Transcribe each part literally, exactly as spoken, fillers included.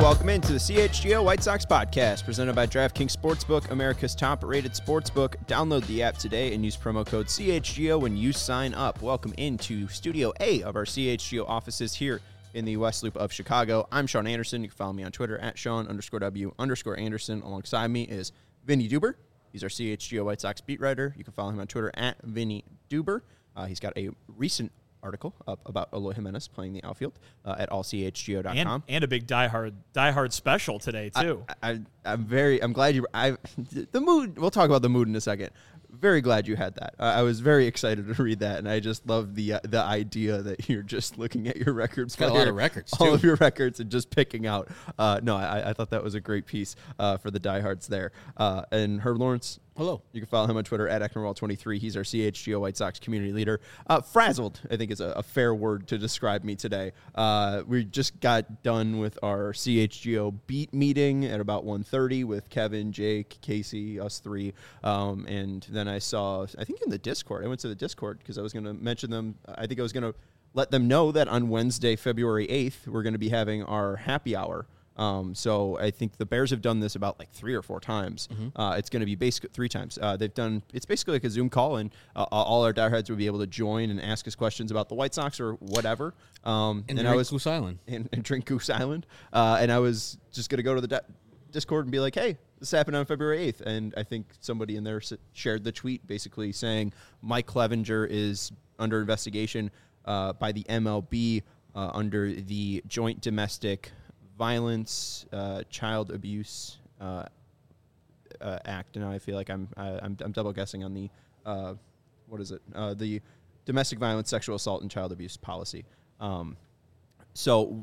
welcome into the C H G O White Sox podcast presented by DraftKings Sportsbook, America's top-rated sportsbook. Download the app today and use promo code C H G O when you sign up. Welcome into Studio A of our C H G O offices here in the West Loop of Chicago. I'm Sean Anderson. You can follow me on Twitter at Sean underscore W underscore Anderson. Alongside me is Vinny Duber. He's our C H G O White Sox beat writer. You can follow him on Twitter at Vinny Duber. Uh, he's got a recent article up about Eloy Jimenez playing the outfield uh, at all C H G O dot com. And, and a big diehard diehard special today too. I, I, I'm very I'm glad you I the mood. We'll talk about the mood in a second. Very glad you had that. Uh, I was very excited to read that, and I just love the uh, the idea that you're just looking at your records. Got a lot of records, all too. of your records, and just picking out. Uh, no, I, I thought that was a great piece uh, for the diehards there. Uh, and Herb Lawrence. Hello. You can follow him on Twitter at Ecknerwall twenty-three. He's our C H G O White Sox community leader. Uh, frazzled, I think, is a, a fair word to describe me today. Uh, we just got done with our C H G O beat meeting at about one thirty with Kevin, Jake, Casey, us three. Um, and then I saw, I think in the Discord, I went to the Discord because I was going to mention them. I think I was going to let them know that on Wednesday, February eighth, we're going to be having our happy hour. Um, so I think the Bears have done this about like three or four times. Mm-hmm. Uh, it's going to be basically three times. Uh, they've done, it's basically like a Zoom call, and uh, all our diehards will be able to join and ask us questions about the White Sox or whatever. Um, and, and drink I was Goose Island. And, and drink Goose Island. Uh, and I was just going to go to the di- Discord and be like, hey, this happened on February eighth. And I think somebody in there shared the tweet basically saying Mike Clevenger is under investigation uh, by the M L B uh, under the Joint Domestic Violence, uh, Child Abuse uh, uh, Act. And now I feel like I'm I, I'm, I'm double guessing on the uh, what is it? Uh, the Domestic Violence, Sexual Assault, and Child Abuse Policy. Um, so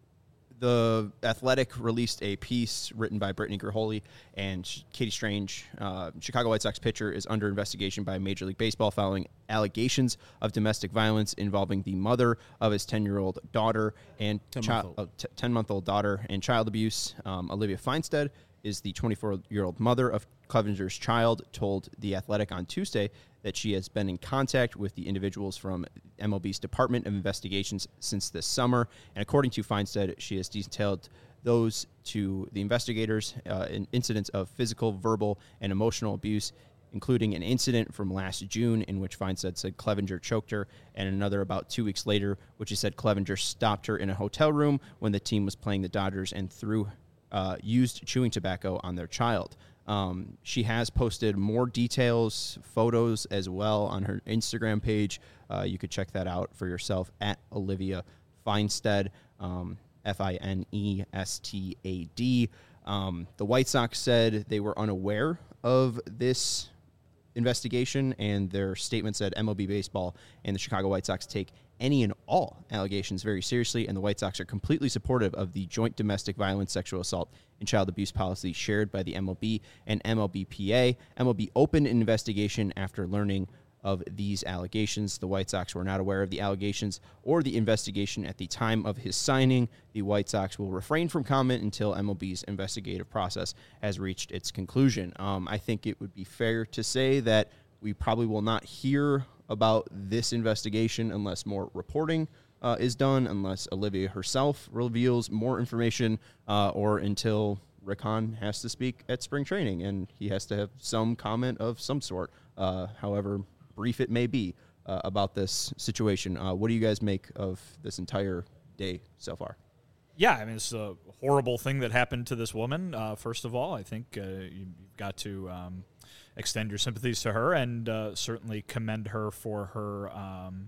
the Athletic released a piece written by Brittany Graholi and Katie Strange. Uh, Chicago White Sox pitcher is under investigation by Major League Baseball following allegations of domestic violence involving the mother of his ten-year-old daughter and child, uh, t- ten-month-old daughter and child abuse. Um, Olivia Feinstead is the twenty-four-year-old mother of Clevenger's child, told The Athletic on Tuesday that she has been in contact with the individuals from M L B's Department of Investigations since this summer. And according to Feinstead, she has detailed those to the investigators uh, in incidents of physical, verbal, and emotional abuse, including an incident from last June in which Feinstead said Clevenger choked her, and another about two weeks later, which he said Clevenger stopped her in a hotel room when the team was playing the Dodgers and threw uh, used chewing tobacco on their child. Um, she has posted more details, photos as well on her Instagram page. Uh, you could check that out for yourself at Olivia Feinstead, um, F I N E S T A D. Um, the White Sox said they were unaware of this investigation, and their statement said M L B Baseball and the Chicago White Sox take any and all allegations very seriously, and the White Sox are completely supportive of the joint domestic violence, sexual assault, and child abuse policy shared by the M L B and M L B P A. M L B opened an investigation after learning of these allegations. The White Sox were not aware of the allegations or the investigation at the time of his signing. The White Sox will refrain from comment until M L B's investigative process has reached its conclusion. Um, I think it would be fair to say that we probably will not hear about this investigation unless more reporting uh, is done, unless Olivia herself reveals more information, uh, or until Rick Hahn has to speak at spring training and he has to have some comment of some sort, uh, however brief it may be, uh, about this situation. Uh, what do you guys make of this entire day so far? Yeah, I mean, it's a horrible thing that happened to this woman. Uh, first of all, I think uh, you've got to um, extend your sympathies to her and uh, certainly commend her for her um,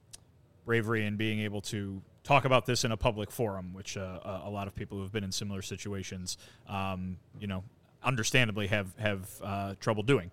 bravery in being able to talk about this in a public forum, which uh, a lot of people who have been in similar situations, um, you know, understandably have have uh, trouble doing.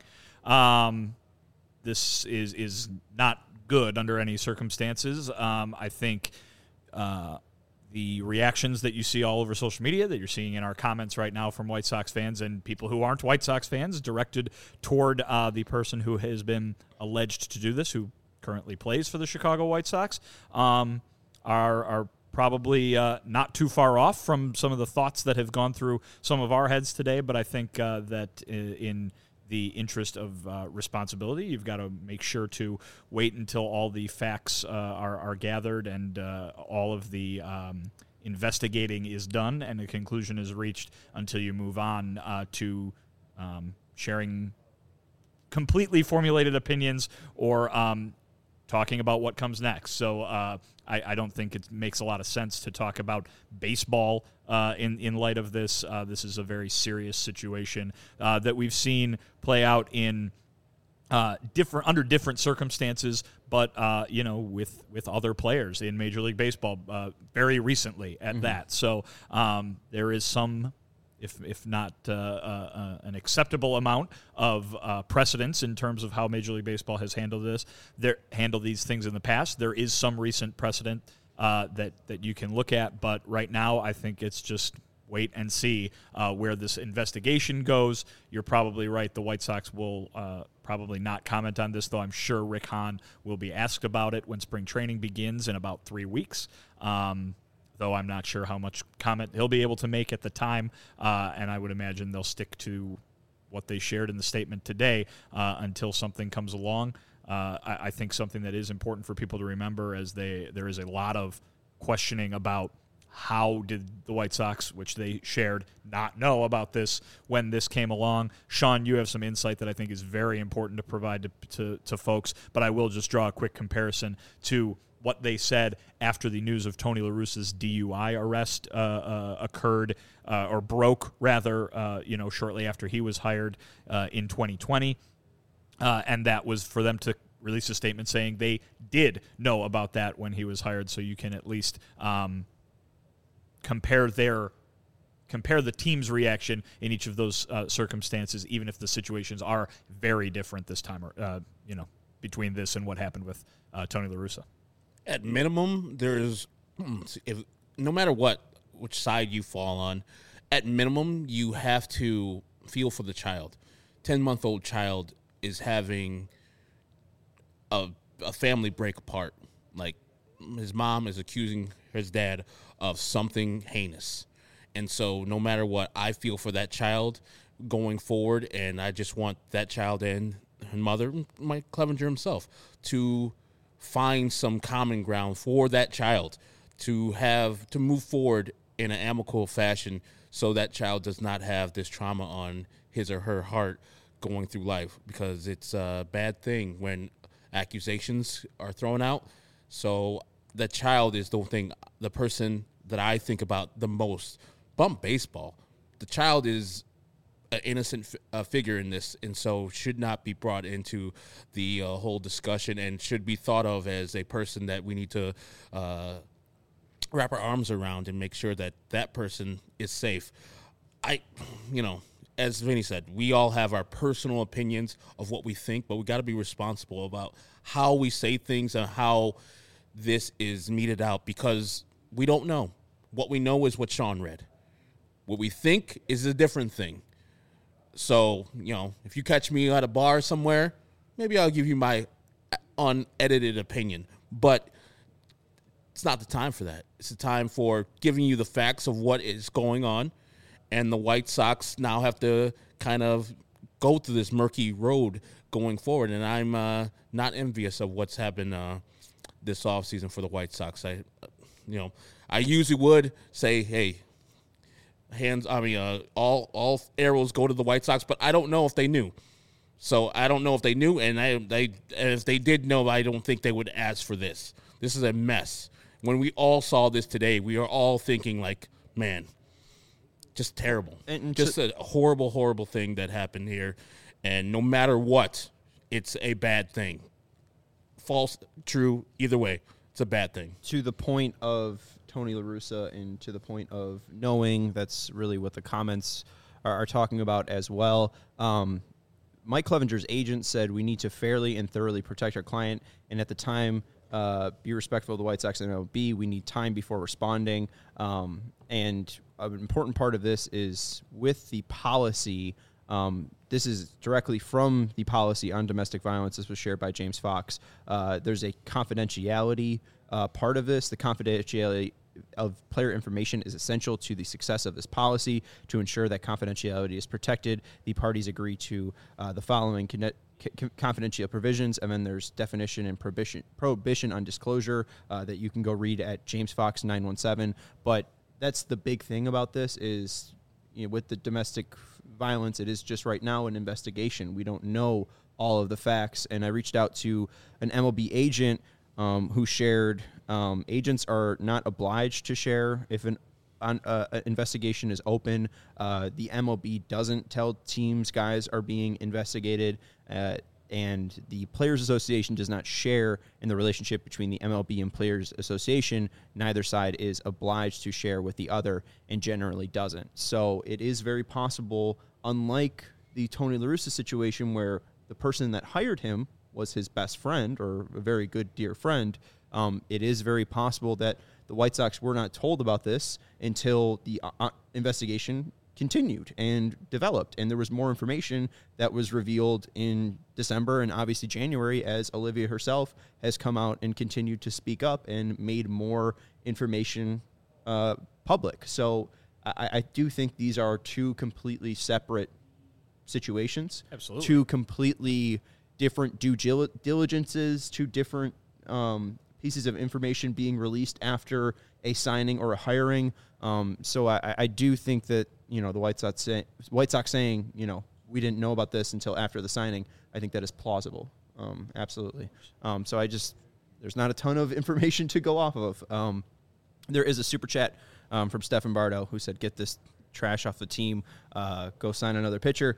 Um, this is is not good under any circumstances. Um, I think uh, the reactions that you see all over social media, that you're seeing in our comments right now from White Sox fans and people who aren't White Sox fans, directed toward uh, the person who has been alleged to do this, who currently plays for the Chicago White Sox, um, are are probably uh, not too far off from some of the thoughts that have gone through some of our heads today. But I think uh, that in the interest of uh, responsibility, you've got to make sure to wait until all the facts uh, are, are gathered and uh, all of the um, investigating is done and a conclusion is reached until you move on uh, to um, sharing completely formulated opinions or um, talking about what comes next. So uh, I, I don't think it makes a lot of sense to talk about baseball uh, in, in light of this. Uh, this is a very serious situation uh, that we've seen play out in uh, different under different circumstances, but uh, you know, with, with other players in Major League Baseball uh, very recently at mm-hmm. that. So um, there is some, if if not uh, uh, an acceptable amount of uh, precedence in terms of how Major League Baseball has handled this, there handled these things in the past. There is some recent precedent uh, that that you can look at, but right now I think it's just wait and see uh, where this investigation goes. You're probably right. The White Sox will uh, probably not comment on this, though I'm sure Rick Hahn will be asked about it when spring training begins in about three weeks. Um, though I'm not sure how much comment he'll be able to make at the time, uh, and I would imagine they'll stick to what they shared in the statement today uh, until something comes along. Uh, I, I think something that is important for people to remember as they there is a lot of questioning about how did the White Sox, which they shared, not know about this when this came along. Sean, you have some insight that I think is very important to provide to, to, to folks, but I will just draw a quick comparison to what they said after the news of Tony La Russa's D U I arrest uh, uh, occurred, uh, or broke, rather, uh, you know, shortly after he was hired uh, in twenty twenty. Uh, and that was for them to release a statement saying they did know about that when he was hired, so you can at least um, compare their compare the team's reaction in each of those uh, circumstances, even if the situations are very different this time, uh, you know, between this and what happened with uh, Tony La Russa. At minimum, there's, if no matter what, which side you fall on, at minimum, you have to feel for the child. ten-month-old child is having a, a family break apart. Like, his mom is accusing his dad of something heinous. And so no matter what, I feel for that child going forward, and I just want that child and her mother, Mike Clevinger himself, to find some common ground for that child, to have to move forward in an amicable fashion so that child does not have this trauma on his or her heart going through life, because it's a bad thing when accusations are thrown out. So that child is the thing, the person that I think about the most. Bump baseball. The child is an innocent f- uh, figure in this, and so should not be brought into the uh, whole discussion, and should be thought of as a person that we need to uh, wrap our arms around and make sure that that person is safe. I, you know, as Vinny said, we all have our personal opinions of what we think, but we got to be responsible about how we say things and how this is meted out, because we don't know. What we know is what Sean read. What we think is a different thing. So, you know, if you catch me at a bar somewhere, maybe I'll give you my unedited opinion. But it's not the time for that. It's the time for giving you the facts of what is going on. And the White Sox now have to kind of go through this murky road going forward. And I'm uh, not envious of what's happened uh, this offseason for the White Sox. I, you know, I usually would say, hey, hands, I mean, uh, all all arrows go to the White Sox, but I don't know if they knew. So I don't know if they knew, and I, they, if they did know, I don't think they would ask for this. This is a mess. When we all saw this today, we are all thinking like, man, just terrible. And just a horrible, horrible thing that happened here. And no matter what, it's a bad thing. False, true, either way, it's a bad thing. To the point of Tony La Russa, and to the point of knowing, that's really what the comments are, are talking about as well. Um, Mike Clevenger's agent said we need to fairly and thoroughly protect our client, and at the time, uh, be respectful of the White Sox and M L B. We need time before responding. Um, and an important part of this is with the policy. Um, this is directly from the policy on domestic violence. This was shared by James Fox. Uh, there's a confidentiality uh, part of this. The confidentiality of player information is essential to the success of this policy. To ensure that confidentiality is protected, the parties agree to uh, the following con- c- confidential provisions, and then there's definition and prohibition, prohibition on disclosure uh, that you can go read at James Fox nine one seven. But that's the big thing about this is, you know, with the domestic violence, it is just right now an investigation. We don't know all of the facts. And I reached out to an M L B agent um, who shared um, agents are not obliged to share if an on, uh, an investigation is open. Uh, the M L B doesn't tell teams guys are being investigated. Uh, and the Players Association does not share in the relationship between the M L B and Players Association. Neither side is obliged to share with the other and generally doesn't. So it is very possible, unlike the Tony La Russa situation where the person that hired him was his best friend or a very good dear friend, um, it is very possible that the White Sox were not told about this until the uh, investigation continued and developed, and there was more information that was revealed in December and obviously January as Olivia herself has come out and continued to speak up and made more information uh, public. So I, I do think these are two completely separate situations. Absolutely. Two completely different due diligences, two different um, pieces of information being released after a signing or a hiring. Um, so I, I do think that, you know, the White Sox, say, White Sox saying, you know, we didn't know about this until after the signing, I think that is plausible. Um, absolutely. Um, so I just, there's not a ton of information to go off of. Um, there is a super chat um, from Stefan Bardo who said, get this trash off the team, uh, go sign another pitcher.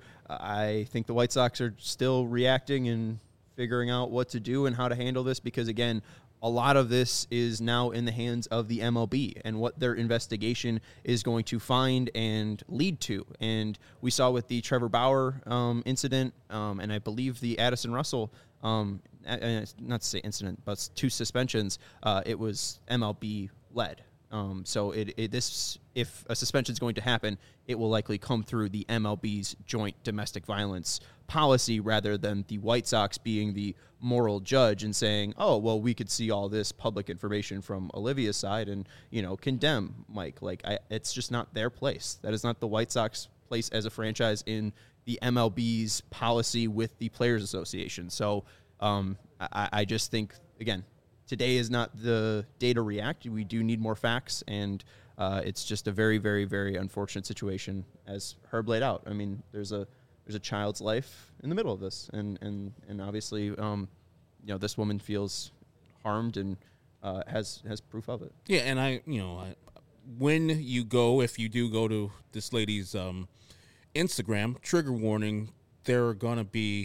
I think the White Sox are still reacting and figuring out what to do and how to handle this because, again, a lot of this is now in the hands of the M L B and what their investigation is going to find and lead to. And we saw with the Trevor Bauer um, incident, um, and I believe the Addison Russell, um, not to say incident, but two suspensions, uh, it was M L B-led. Um, so it, it this if a suspension is going to happen, it will likely come through the M L B's joint domestic violence policy rather than the White Sox being the moral judge and saying, oh, well, we could see all this public information from Olivia's side and, you know, condemn Mike. Like, I, it's just not their place. That is not the White Sox place as a franchise in the M L B's policy with the Players Association. So um, I, I just think, again, today is not the day to react. We do need more facts, and uh, it's just a very, very, very unfortunate situation, as Herb laid out. I mean, there's a there's a child's life in the middle of this, and and and obviously, um, you know, this woman feels harmed and uh, has has proof of it. Yeah, and I, you know, I, when you go, if you do go to this lady's um, Instagram, trigger warning, there are gonna be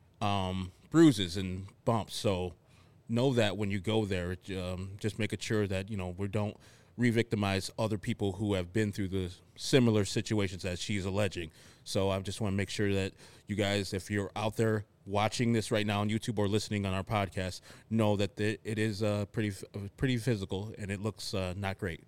um, bruises and bumps, so. Know that when you go there, um, just making sure that, you know, we don't re-victimize other people who have been through the similar situations as she's alleging. So I just want to make sure that you guys, if you're out there watching this right now on YouTube or listening on our podcast, know that it is uh, pretty pretty physical and it looks uh, not great.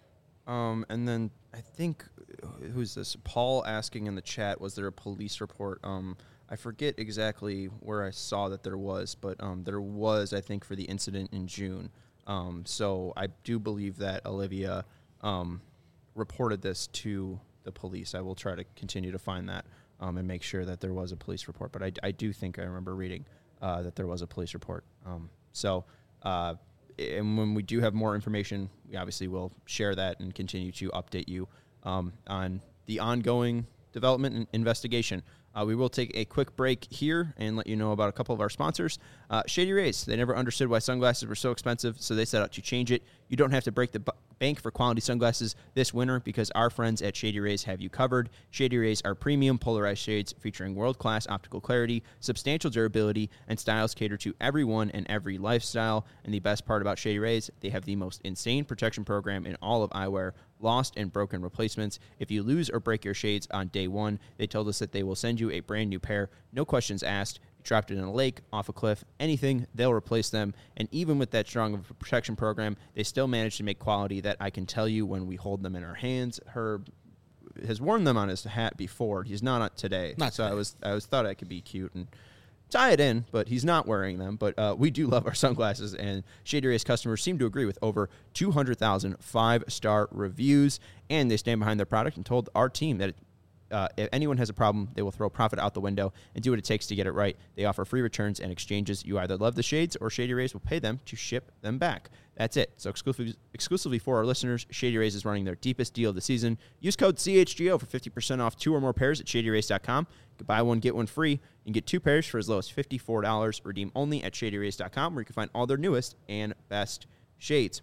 Um, and then I think, who's this? Paul asking in the chat, was there a police report? Um, I forget exactly where I saw that there was, but um, there was, I think, for the incident in June. Um, so I do believe that Olivia um, reported this to the police. I will try to continue to find that um, and make sure that there was a police report. But I, I do think I remember reading uh, that there was a police report. Um, so, uh, and when we do have more information, we obviously will share that and continue to update you um, on the ongoing development and investigation. Uh, we will take a quick break here and let you know about a couple of our sponsors. Uh, Shady Rays, they never understood why sunglasses were so expensive, so they set out to change it. You don't have to break the bu- bank for quality sunglasses this winter because our friends at Shady Rays have you covered. Shady Rays are premium polarized shades featuring world-class optical clarity, substantial durability, and styles cater to everyone and every lifestyle. And the best part about Shady Rays, they have the most insane protection program in all of eyewear, lost and broken replacements. If you lose or break your shades on day one, they told us that they will send you a brand new pair, no questions asked. You dropped it in a lake, off a cliff, anything, they'll replace them. And even with that strong of a protection program, they still manage to make quality that I can tell you when we hold them in our hands. Herb has worn them on his hat before. He's not on today. Not so today. I was I was thought I could be cute and tie it in, but he's not wearing them. But uh, we do love our sunglasses, and Shady Rays customers seem to agree with over two hundred thousand five-star reviews, and they stand behind their product and told our team that it, uh, if anyone has a problem, they will throw profit out the window and do what it takes to get it right. They offer free returns and exchanges. You either love the shades or Shady Rays will pay them to ship them back. That's it. So exclusively, exclusively for our listeners, Shady Rays is running their deepest deal of the season. Use code C H G O for fifty percent off two or more pairs at shady rays dot com. You can buy one, get one free. You can get two pairs for as low as fifty-four dollars. Redeem only at shady rays dot com, where you can find all their newest and best shades.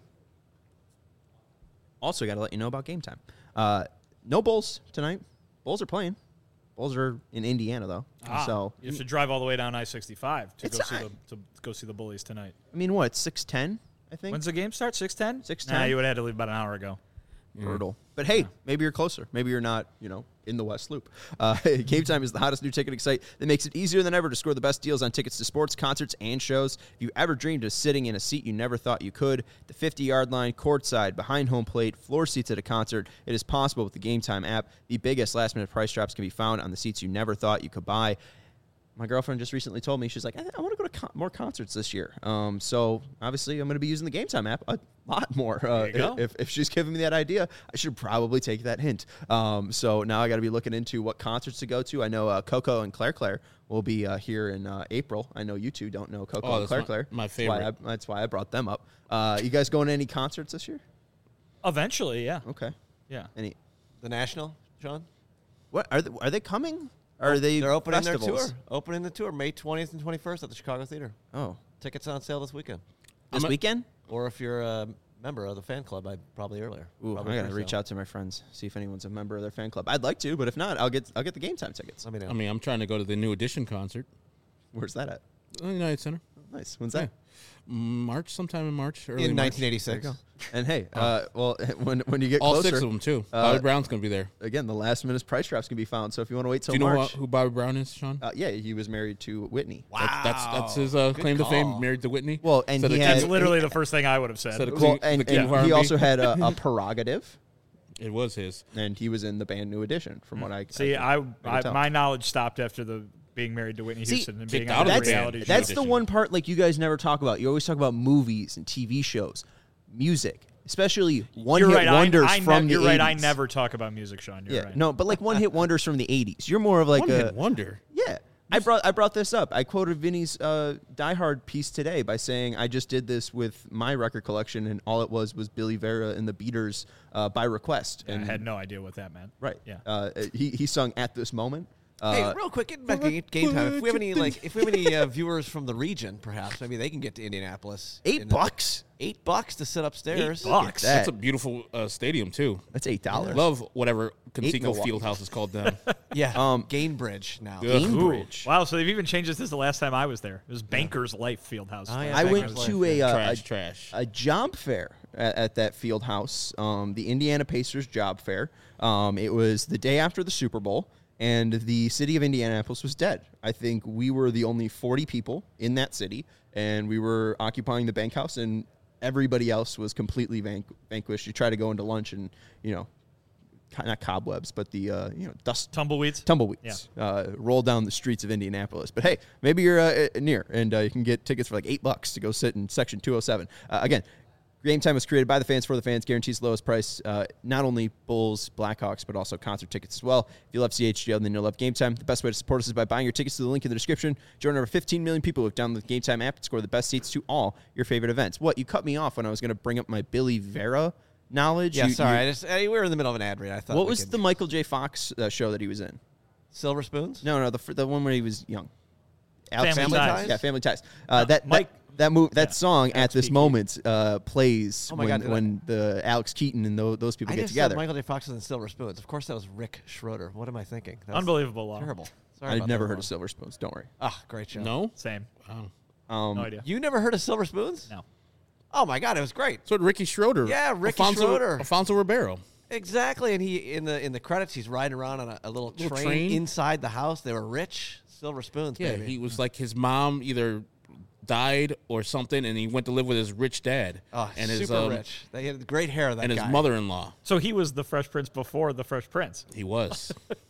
Also, got to let you know about game time. Uh, no Bulls tonight. Bulls are playing. Bulls are in Indiana, though. Ah, so you have to drive all the way down I sixty-five to It's go see not- the to go see the Bullies tonight. I mean, what? six ten, I think? When's the game start? six ten? six Nah, ten. you would have had to leave about an hour ago. Brutal. But hey, maybe you're closer. Maybe you're not, you know, in the West Loop. Uh, Game Time is the hottest new ticketing site that makes it easier than ever to score the best deals on tickets to sports, concerts, and shows. If you ever dreamed of sitting in a seat you never thought you could, the fifty-yard line, courtside, behind home plate, floor seats at a concert, it is possible with the Game Time app. The biggest last-minute price drops can be found on the seats you never thought you could buy. My girlfriend just recently told me, she's like, I, I want to go to con- more concerts this year. Um, so obviously I'm going to be using the Game Time app a lot more. Uh, There you go. if, if she's giving me that idea, I should probably take that hint. Um, so now I got to be looking into what concerts to go to. I know uh, Coco and Claire Claire will be uh, here in uh, April. I know you two don't know Coco Oh, and that's Claire my- Claire. my That's why, I, favorite. that's why I brought them up. Uh, you guys going to any concerts this year? Eventually, yeah. Okay. Yeah. Any? The National, Sean? What are they, are they coming? Or are they They're opening festivals? their tour. Opening the tour May twentieth and twenty-first at the Chicago Theater. Oh, Tickets on sale this weekend. this I'm a- weekend? Or if you're a member of the fan club, I probably earlier. Ooh, Probably I gotta first reach sale. out to my friends, see if anyone's a member of their fan club. I'd like to, but if not, I'll get I'll get the Game Time tickets. Let me know. I mean, I'm trying to go to the New Edition concert. Where's that at? Uh, United Center. Nice. When's that? March, sometime in March. Early in March. nineteen eighty-six. And hey, uh, well, when when you get All closer, six of them, too. uh, Bobby Brown's going to be there. again, the last minute price drops can be found. So if you want to wait till Do you know March, who, who Bobby Brown is, Sean? uh, yeah, he was married to Whitney. Wow. That- that's that's his uh, Good claim to fame, call. married to Whitney. Well, and So he the had That's king- literally the first thing I would have said. So the well, king- and, the king and of R and he B. also had a, a prerogative, It was his. and he was in the band New Edition. From what I See, I, I, can I tell. my knowledge stopped after the being married to Whitney See, Houston and kicked being out on of the the that's reality band. show. that's the Edition. one part like you guys never talk about. You always talk about movies and T V shows, music, especially one You're hit right. wonders I, I from ne- the You're right. I eighties. never talk about music, Sean. You're Yeah, right. no, but like one hit wonders from the eighties. You're more of like One a hit wonder. yeah. I brought I brought this up. I quoted Vinny's uh, Die Hard piece today by saying I just did this with my record collection, and all it was was Billy Vera and the Beaters uh, by request. Yeah, and I had no idea what that meant. right, Yeah. Uh, he he sung At This Moment. Uh, Hey, real quick, getting back to game- game time. If we have any like, if we have any uh, viewers from the region, perhaps maybe they can get to Indianapolis. eight in- bucks. Eight bucks to sit upstairs. Eight bucks. that. That's a beautiful uh, stadium, too. That's eight dollars. Love whatever Conseco Milwaukee. Fieldhouse is called down. Yeah. Um, Gainbridge now. Ugh. Ooh. Cambridge. Wow, so they've even changed this since the last time I was there. It was Banker's Life Fieldhouse. Oh, yeah. I Back went in his to life, a, yeah. uh, trash, a trash. a job fair at, at that field house, um, the Indiana Pacers job fair. Um, it was the day after the Super Bowl, and the city of Indianapolis was dead. I think we were the only forty people in that city, and we were occupying the bank house, and everybody else was completely van- vanquished. You try to go into lunch, and you know, co- not cobwebs, but the uh, you know dust. Tumbleweeds. Tumbleweeds uh, roll down the streets of Indianapolis. But hey, maybe you're uh, near, and uh, you can get tickets for like eight bucks to go sit in section two oh seven. Uh, again, Game Time was created by the fans for the fans, guarantees the lowest price. Uh, not only Bulls, Blackhawks, but also concert tickets as well. If you love C H G O, then you'll love Game Time. The best way to support us is by buying your tickets to the link in the description. Join over fifteen million people who have downloaded the Game Time app and score the best seats to all your favorite events. What? You cut me off when I was going to bring up my Billy Vera knowledge. Yeah, You- sorry. you- I just uh, we were in the middle of an ad read. I thought. what we was could- the Michael J. Fox uh, show that he was in? Silver Spoons? No, no, the fr- the one where he was young. Family Family Ties. Ties? Yeah, Family Ties. Uh, that Mike- that that move that yeah, song at Alex this Keaton. moment uh, plays Oh my when God, did I- when the Alex Keaton and those, those people I get just together. said Michael J. Fox was in Silver Spoons. Of course, that was Rick Schroeder. What am I thinking? That was Unbelievable. Law. Terrible. Sorry I'd about never that, heard Ron. of Silver Spoons. Don't worry. Ah, great show. No? Same. Wow. Um, No idea. You never heard of Silver Spoons? No. Oh my God, it was great. So did Ricky Schroeder. Yeah, Ricky Alfonso, Schroeder. Alfonso Ribeiro. Exactly, and he in the in the credits he's riding around on a, a little, Little train, train? inside the house. They were rich. Silver Spoons, Yeah, baby. he was like his mom either died or something, and he went to live with his rich dad oh, and super his um, rich. They had great hair. That and his guy. mother-in-law. So he was the Fresh Prince before the Fresh Prince. He was.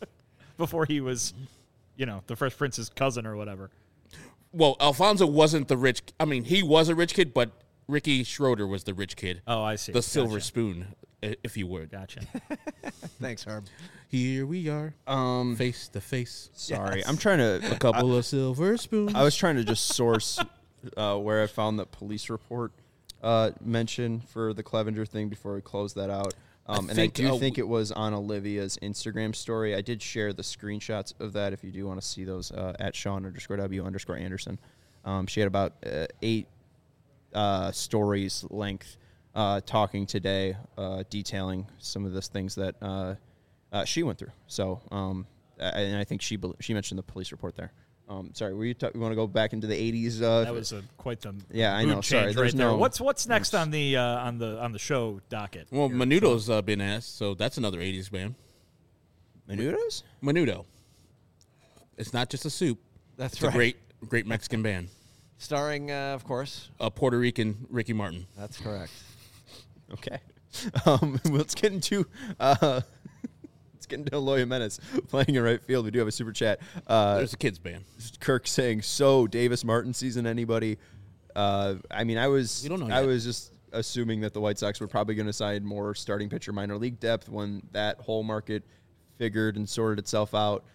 Before he was, you know, the Fresh Prince's cousin or whatever. Well, Alfonso wasn't the rich. I mean, he was a rich kid, but Ricky Schroeder was the rich kid. Oh, I see. The silver Gotcha. spoon, i- if you would. Gotcha. Thanks, Herb. Here we are, Um, face to face. sorry, Yes. I'm trying to. A couple of silver spoons. I was trying to just source uh, where I found the police report uh, mention for the Clevenger thing before we close that out. Um, and think, I do uh, think it was on Olivia's Instagram story. I did share the screenshots of that if you do want to see those uh, at Sean underscore W underscore Anderson. Um, she had about uh, eight uh, stories length uh, talking today, uh, detailing some of the things that uh, uh, she went through. So, um, I- and I think she bel- she mentioned the police report there. Um, sorry, were you, ta- you want to go back into the eighties? Uh, That was a, quite the Yeah, I mood know. Sorry, change there's right there. no- What's what's next on the uh, on the on the show docket? well, here? Menudo's uh, been asked, so that's another eighties band. Menudos? Menudo. It's not just a soup. That's It's right. a great, great Mexican band. Starring, uh, of course. A Puerto Rican Ricky Martin. That's correct. Okay. Um, let's get into uh, let's get into Eloy Jimenez playing in right field. We do have a super chat. Uh, There's a kids band. Kirk saying, "So Davis Martin season anybody?" Uh, I mean, I was We don't know I yet. was just assuming that the White Sox were probably going to sign more starting pitcher minor league depth when that whole market figured and sorted itself out.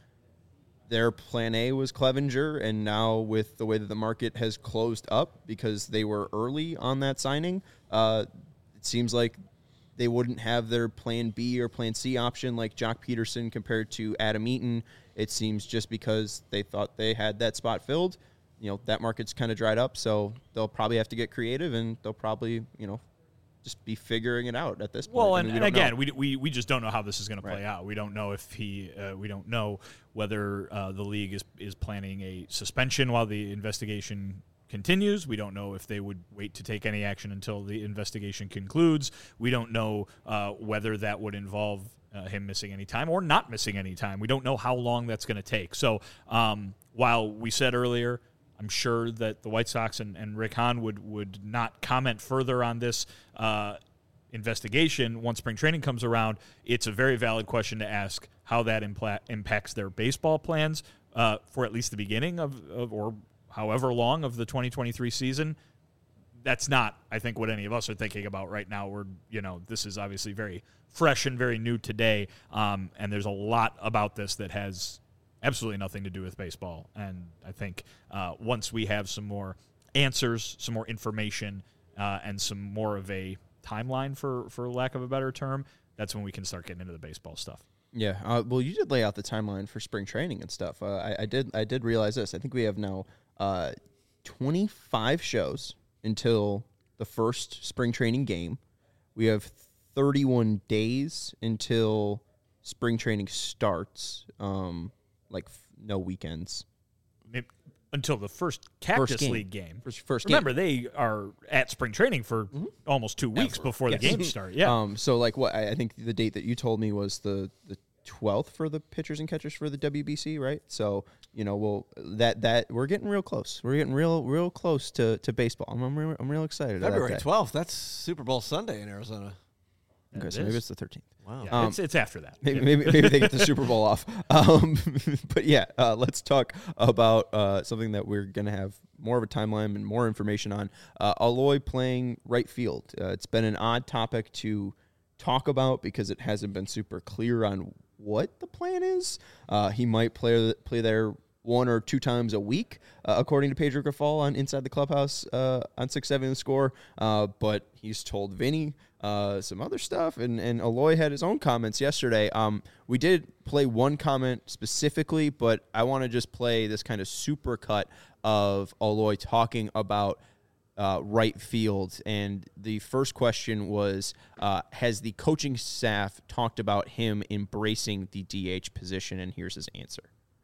Their plan A was Clevenger, and now with the way that the market has closed up because they were early on that signing, uh, it seems like they wouldn't have their plan B or plan C option like Jock Peterson compared to Adam Eaton. It seems just because they thought they had that spot filled, you know, that market's kind of dried up, so they'll probably have to get creative, and they'll probably, you know, just be figuring it out at this point. Well, I and, mean, we and don't know. again, we, we we just don't know how this is going to play Right. out. We don't know if he, uh, we don't know whether uh, the league is is planning a suspension while the investigation continues. We don't know if they would wait to take any action until the investigation concludes. We don't know uh, whether that would involve uh, him missing any time or not missing any time. We don't know how long that's going to take. So um, while we said earlier, I'm sure that the White Sox and, and Rick Hahn would, would not comment further on this uh, investigation once spring training comes around. It's a very valid question to ask how that impla- impacts their baseball plans uh, for at least the beginning of, of or however long of the twenty twenty-three season. That's not, I think, what any of us are thinking about right now. We're, you know, this is obviously very fresh and very new today, um, and there's a lot about this that has absolutely nothing to do with baseball. And I think uh, once we have some more answers, some more information, uh, and some more of a timeline, for, for lack of a better term, that's when we can start getting into the baseball stuff. Yeah, uh, well, you did lay out the timeline for spring training and stuff. Uh, I, I did. I did realize this. I think we have now uh, twenty-five shows until the first spring training game. We have thirty-one days until spring training starts. Um, like f- no weekends. Maybe until the first Cactus First game. League game. First, first Remember, game. they are at spring training for almost two weeks Ever. before Yes. the games start. Yeah. Um, so like what I, I think the date that you told me was the the twelfth for the pitchers and catchers for the W B C, right? So you know, well that that we're getting real close. We're getting real real close to, to baseball. I'm I'm real, I'm real excited. about February that. twelfth. That's Super Bowl Sunday in Arizona. Okay, It so maybe is. it's the thirteenth. Wow. Yeah, Um, it's, it's after that. Maybe, Yeah. maybe maybe they get the Super Bowl off. Um, but yeah, uh, let's talk about uh, something that we're going to have more of a timeline and more information on. Uh, Eloy playing right field. Uh, it's been an odd topic to talk about because it hasn't been super clear on what the plan is. Uh, he might play play there one or two times a week, uh, according to Pedro Grafal on Inside the Clubhouse uh, on six seven The Score. Uh, but he's told Vinny uh, some other stuff, and, and Eloy had his own comments yesterday. Um, we did play one comment specifically, but I want to just play this kind of super cut of Eloy talking about uh, right field. And the first question was, uh, has the coaching staff talked about him embracing the D H position? And here's his answer.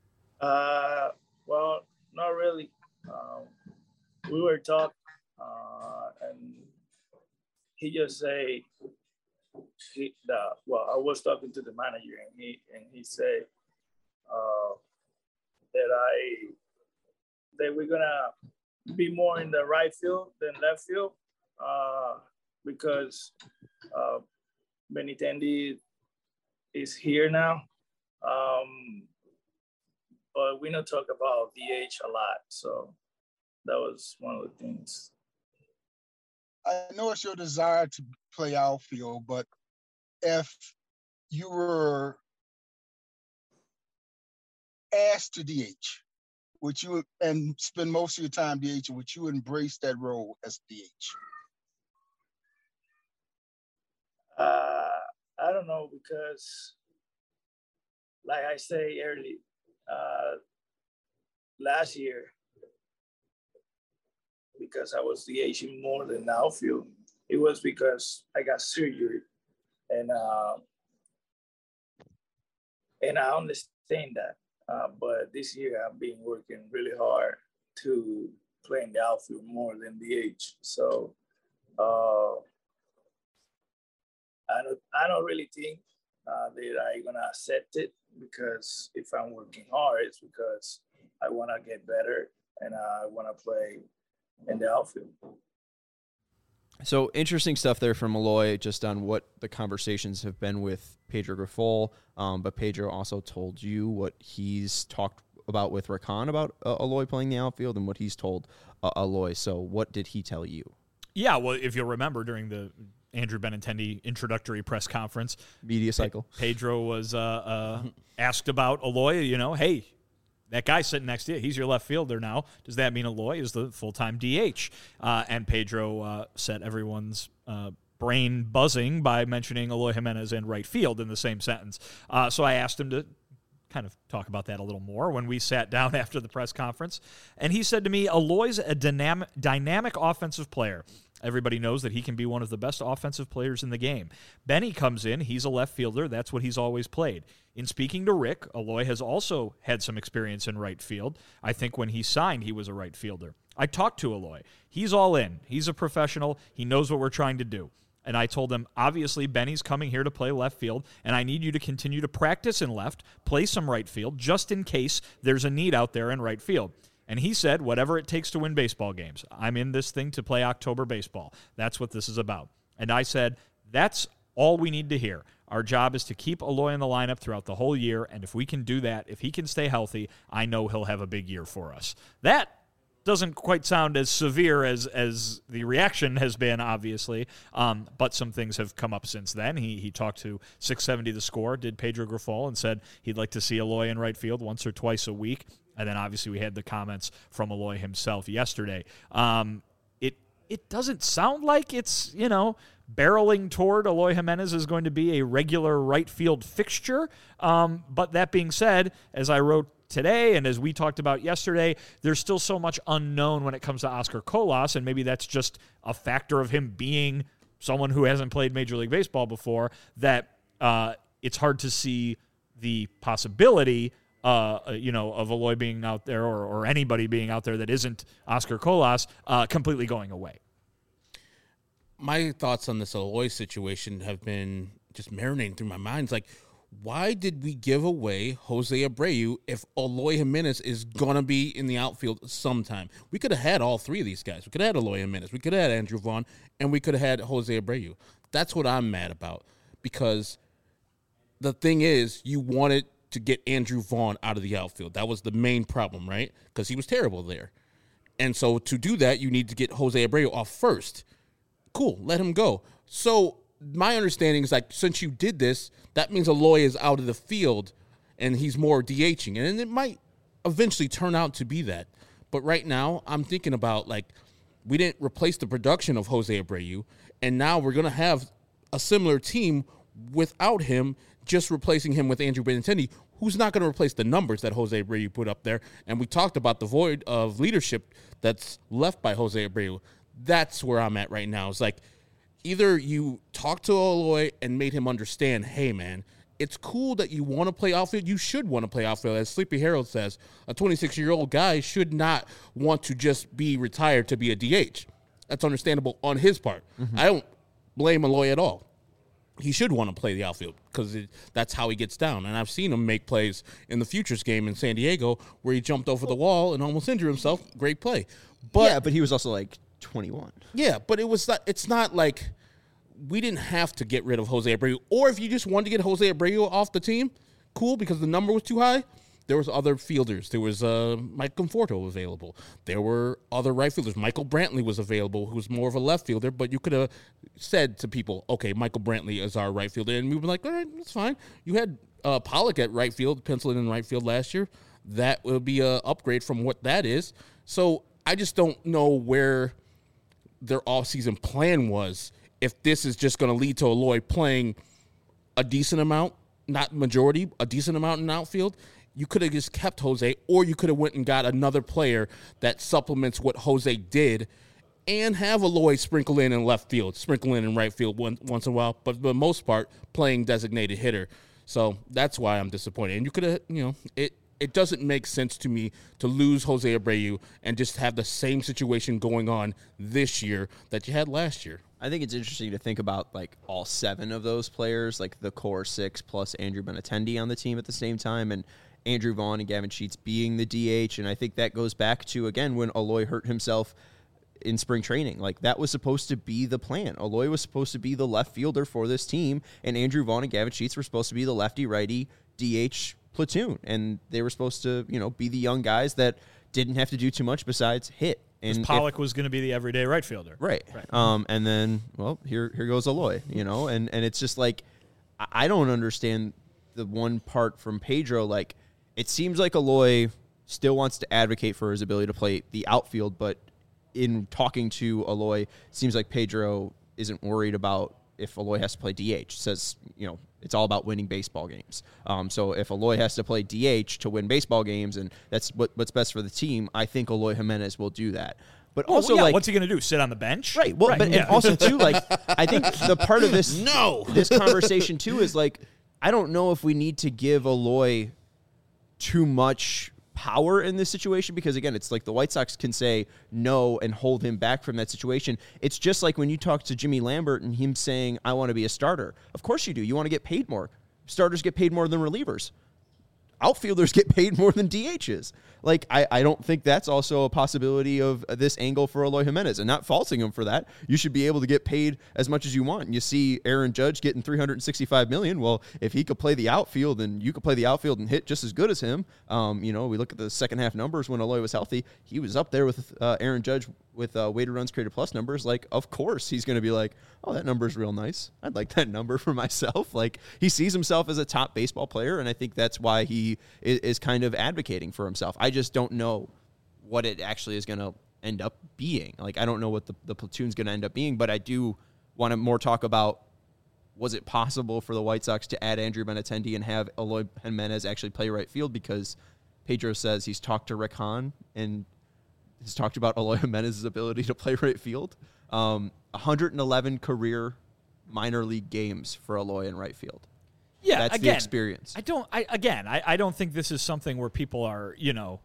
Uh, well, not really. Um, we were talking, uh, and he just say he, the, well, I was talking to the manager, and he and he said uh, that I that we're gonna be more in the right field than left field uh, because uh, Benintendi is here now. Um, But we don't talk about D H a lot, so that was one of the things. I know it's your desire to play outfield, but if you were asked to D H, would you and spend most of your time D H, would you embrace that role as D H? Uh, I don't know, because, like I say early, uh, last year, because I was DHing more than outfield, it was because I got surgery, and uh, and I understand that. Uh, but this year I've been working really hard to play in the outfield more than D H. So uh, I don't I don't really think uh, that I'm gonna accept it, because if I'm working hard, it's because I want to get better and I want to play in the outfield. So interesting stuff there from Eloy, just on what the conversations have been with Pedro Grifol. Um, but Pedro also told you what he's talked about with Rakan about uh, Eloy playing the outfield, and what he's told uh, Eloy. So what did he tell you? Yeah, well, if you'll remember, during the Andrew Benintendi introductory press conference, Media cycle, Pe- Pedro was uh, uh, asked about Eloy. You know, hey, that guy sitting next to you, he's your left fielder now. Does that mean Eloy is the full-time D H? Uh, and Pedro uh, set everyone's uh, brain buzzing by mentioning Eloy Jimenez in right field in the same sentence. Uh, so I asked him to kind of talk about that a little more when we sat down after the press conference. And he said to me, Eloy's a dynamic, dynamic offensive player. Everybody knows that he can be one of the best offensive players in the game. Benny comes in. He's a left fielder. That's what he's always played. In speaking to Rick, Eloy has also had some experience in right field. I think when he signed, he was a right fielder. I talked to Eloy. He's all in. He's a professional. He knows what we're trying to do. And I told him, obviously, Benny's coming here to play left field, and I need you to continue to practice in left, play some right field, just in case there's a need out there in right field. And he said, whatever it takes to win baseball games. I'm in this thing to play October baseball. That's what this is about. And I said, that's all we need to hear. Our job is to keep Eloy in the lineup throughout the whole year, and if we can do that, if he can stay healthy, I know he'll have a big year for us. That doesn't quite sound as severe as as the reaction has been, obviously, um, but some things have come up since then. He he talked to six seventy The Score, did Pedro Grifol, and said he'd like to see Eloy in right field once or twice a week. And then obviously we had the comments from Eloy himself yesterday. Um, it it doesn't sound like it's, you know, barreling toward Eloy Jimenez is going to be a regular right field fixture. Um, but that being said, as I wrote today and as we talked about yesterday, there's still so much unknown when it comes to Oscar Colas, and maybe that's just a factor of him being someone who hasn't played Major League Baseball before, that uh, it's hard to see the possibility Uh, you know, of Eloy being out there, or, or anybody being out there that isn't Oscar Colas, uh, completely going away. My thoughts on this Eloy situation have been just marinating through my mind. It's like, why did we give away Jose Abreu if Eloy Jimenez is going to be in the outfield sometime? We could have had all three of these guys. We could have had Eloy Jimenez. We could have had Andrew Vaughn, and we could have had Jose Abreu. That's what I'm mad about, because the thing is, you wanted to get Andrew Vaughn out of the outfield. That was the main problem, right? Because he was terrible there. And so to do that, you need to get Jose Abreu off first. Cool, let him go. So my understanding is, like, since you did this, that means Eloy is out of the field and he's more DHing. And it might eventually turn out to be that. But right now, I'm thinking about, like, we didn't replace the production of Jose Abreu, and now we're going to have a similar team without him, just replacing him with Andrew Benintendi, who's not going to replace the numbers that Jose Abreu put up there. And we talked about the void of leadership that's left by Jose Abreu. That's where I'm at right now. It's like, either you talk to Eloy and made him understand, hey, man, it's cool that you want to play outfield. You should want to play outfield. As Sleepy Harold says, a twenty-six-year-old guy should not want to just be retired to be a D H. That's understandable on his part. Mm-hmm. I don't blame Eloy at all. He should want to play the outfield because that's how he gets down. And I've seen him make plays in the Futures game in San Diego where he jumped over the wall and almost injured himself. Great play. But yeah, but he was also like twenty-one. Yeah, but it was not, it's not like we didn't have to get rid of Jose Abreu. Or if you just wanted to get Jose Abreu off the team, cool, because the number was too high, there was other fielders. There was uh, Mike Conforto available. There were other right fielders. Michael Brantley was available, who was more of a left fielder, but you could have said to people, okay, Michael Brantley is our right fielder, and we were like, all right, that's fine. You had uh, Pollock at right field, penciled in right field last year. That will be an upgrade from what that is. So I just don't know where their offseason plan was, if this is just going to lead to Eloy playing a decent amount, not majority, a decent amount in outfield. You could have just kept Jose, or you could have went and got another player that supplements what Jose did and have Eloy sprinkle in in left field, sprinkle in in right field one, once in a while, but for the most part, playing designated hitter. So that's why I'm disappointed. And you could have, you know, it, it doesn't make sense to me to lose Jose Abreu and just have the same situation going on this year that you had last year. I think it's interesting to think about like all seven of those players, like the core six plus Andrew Benintendi on the team at the same time, and Andrew Vaughn and Gavin Sheets being the D H. And I think that goes back to, again, when Eloy hurt himself in spring training. Like, that was supposed to be the plan. Eloy was supposed to be the left fielder for this team, and Andrew Vaughn and Gavin Sheets were supposed to be the lefty-righty D H platoon. And they were supposed to, you know, be the young guys that didn't have to do too much besides hit. And Pollock if, was going to be the everyday right fielder. Right. right. Um, and then, well, here here goes Eloy, you know, and, and it's just like, I don't understand the one part from Pedro. Like, it seems like Eloy still wants to advocate for his ability to play the outfield, but in talking to Eloy, it seems like Pedro isn't worried about if Eloy has to play D H. Says, you know, it's all about winning baseball games. Um, so if Eloy has to play D H to win baseball games, and that's what, what's best for the team, I think Eloy Jimenez will do that. But well, also, yeah, like, what's he going to do? Sit on the bench? Right. Well, right. but yeah. and also too, like, I think the part of this no this conversation too is like, I don't know if we need to give Eloy too much power in this situation, because again, it's like the White Sox can say no and hold him back from that situation. It's just like when you talk to Jimmy Lambert and him saying, I want to be a starter. Of course you do. You want to get paid more. Starters get paid more than relievers. Outfielders get paid more than D Hs. Like, I, I don't think that's also a possibility of this angle for Eloy Jimenez, and not faulting him for that. You should be able to get paid as much as you want. And you see Aaron Judge getting three hundred sixty-five million dollars. Well, if he could play the outfield, and you could play the outfield and hit just as good as him, um, you know, we look at the second half numbers when Eloy was healthy, he was up there with uh, Aaron Judge with uh, weighted runs created plus numbers. Like, of course he's going to be like, oh, that number's real nice. I'd like that number for myself. Like, he sees himself as a top baseball player, and I think that's why he is, is kind of advocating for himself. I just don't know what it actually is going to end up being. Like, I don't know what the, the platoon's going to end up being, but I do want to more talk about, was it possible for the White Sox to add Andrew Benintendi and have Eloy Jimenez actually play right field? Because Pedro says he's talked to Rick Hahn and has talked about Eloy Jimenez's ability to play right field. Um, one hundred eleven career minor league games for Eloy in right field. Yeah, that's again, the experience. I don't. I again, I, I don't think this is something where people are, you know,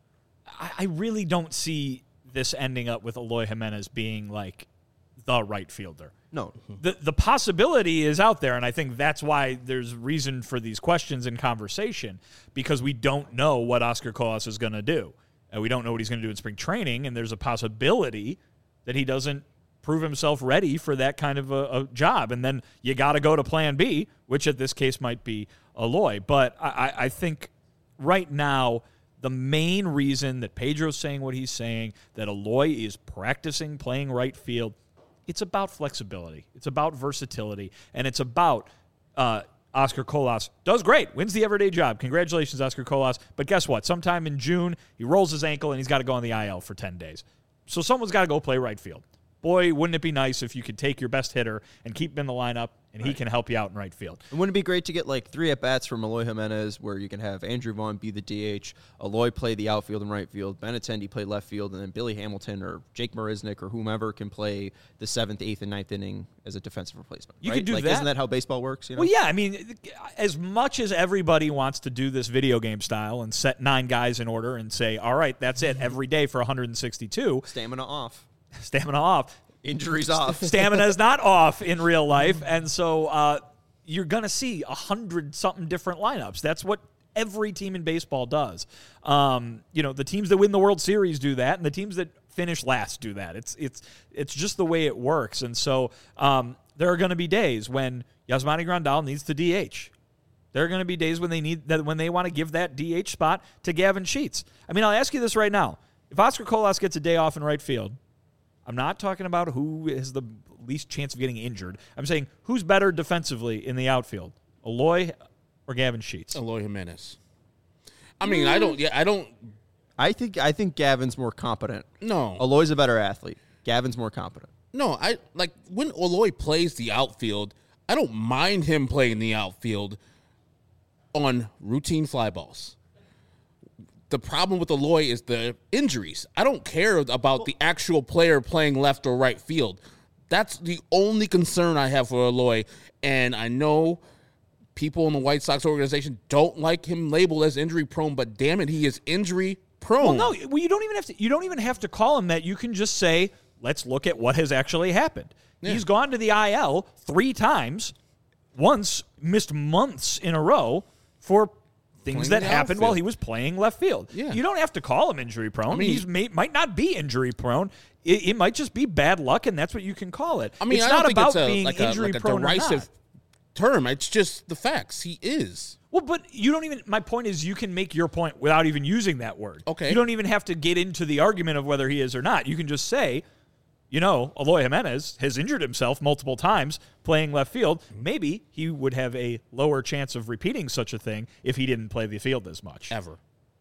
I, I really don't see this ending up with Eloy Jimenez being like the right fielder. No. The the possibility is out there, and I think that's why there's reason for these questions and conversation, because we don't know what Oscar Colas is going to do. And we don't know what he's going to do in spring training, and there's a possibility that he doesn't prove himself ready for that kind of a, a job. And then you got to go to plan B, which at this case might be Eloy. But I, I think right now, the main reason that Pedro's saying what he's saying, that Eloy is practicing playing right field, it's about flexibility. It's about versatility. And it's about uh, Oscar Colas does great, wins the everyday job. Congratulations, Oscar Colas. But guess what? Sometime in June, he rolls his ankle and he's got to go on the I L for ten days. So someone's got to go play right field. Boy, wouldn't it be nice if you could take your best hitter and keep him in the lineup, and right. he can help you out in right field. And wouldn't it be great to get like three at-bats from Eloy Jimenez, where you can have Andrew Vaughn be the D H, Eloy play the outfield and right field, Benintendi play left field, and then Billy Hamilton or Jake Marisnick or whomever can play the seventh, eighth, and ninth inning as a defensive replacement. You right? could do like, that. Isn't that how baseball works? You know? Well, yeah. I mean, as much as everybody wants to do this video game style and set nine guys in order and say, all right, that's it every day for one hundred sixty-two. Stamina off. Stamina off. Injuries off. Stamina is not off in real life. And so uh, you're going to see a hundred-something different lineups. That's what every team in baseball does. Um, you know, the teams that win the World Series do that, and the teams that finish last do that. It's it's it's just the way it works. And so um, there are going to be days when Yasmani Grandal needs to D H. There are going to be days when they need that when they want to give that D H spot to Gavin Sheets. I mean, I'll ask you this right now. If Oscar Colas gets a day off in right field, I'm not talking about who has the least chance of getting injured. I'm saying who's better defensively in the outfield, Eloy or Gavin Sheets? Eloy Jimenez. I mean, I don't. Yeah, I don't. I think I think Gavin's more competent. No, Eloy's a better athlete. Gavin's more competent. no. I like when Eloy plays the outfield. I don't mind him playing the outfield on routine fly balls. The problem with Eloy is the injuries. I don't care about the actual player playing left or right field. That's the only concern I have for Eloy. And I know people in the White Sox organization don't like him labeled as injury prone, but damn it, he is injury prone. Well, no, well, you don't even have to. You don't even have to call him that. You can just say, "Let's look at what has actually happened." Yeah. He's gone to the I L three times. Once missed months in a row for things Playing that happened outfield. while he was playing left field. Yeah. You don't have to call him injury prone. I mean, He's may, might not be injury prone. It, it might just be bad luck, and that's what you can call it. I mean, it's I not don't think about it's a, being like a, injury like a prone or derisive not. term. It's just the facts. He is. Well, but you don't even, my point is you can make your point without even using that word. Okay. You don't even have to get into the argument of whether he is or not. You can just say, you know, Eloy Jimenez has injured himself multiple times playing left field. Maybe he would have a lower chance of repeating such a thing if he didn't play the field as much. Ever.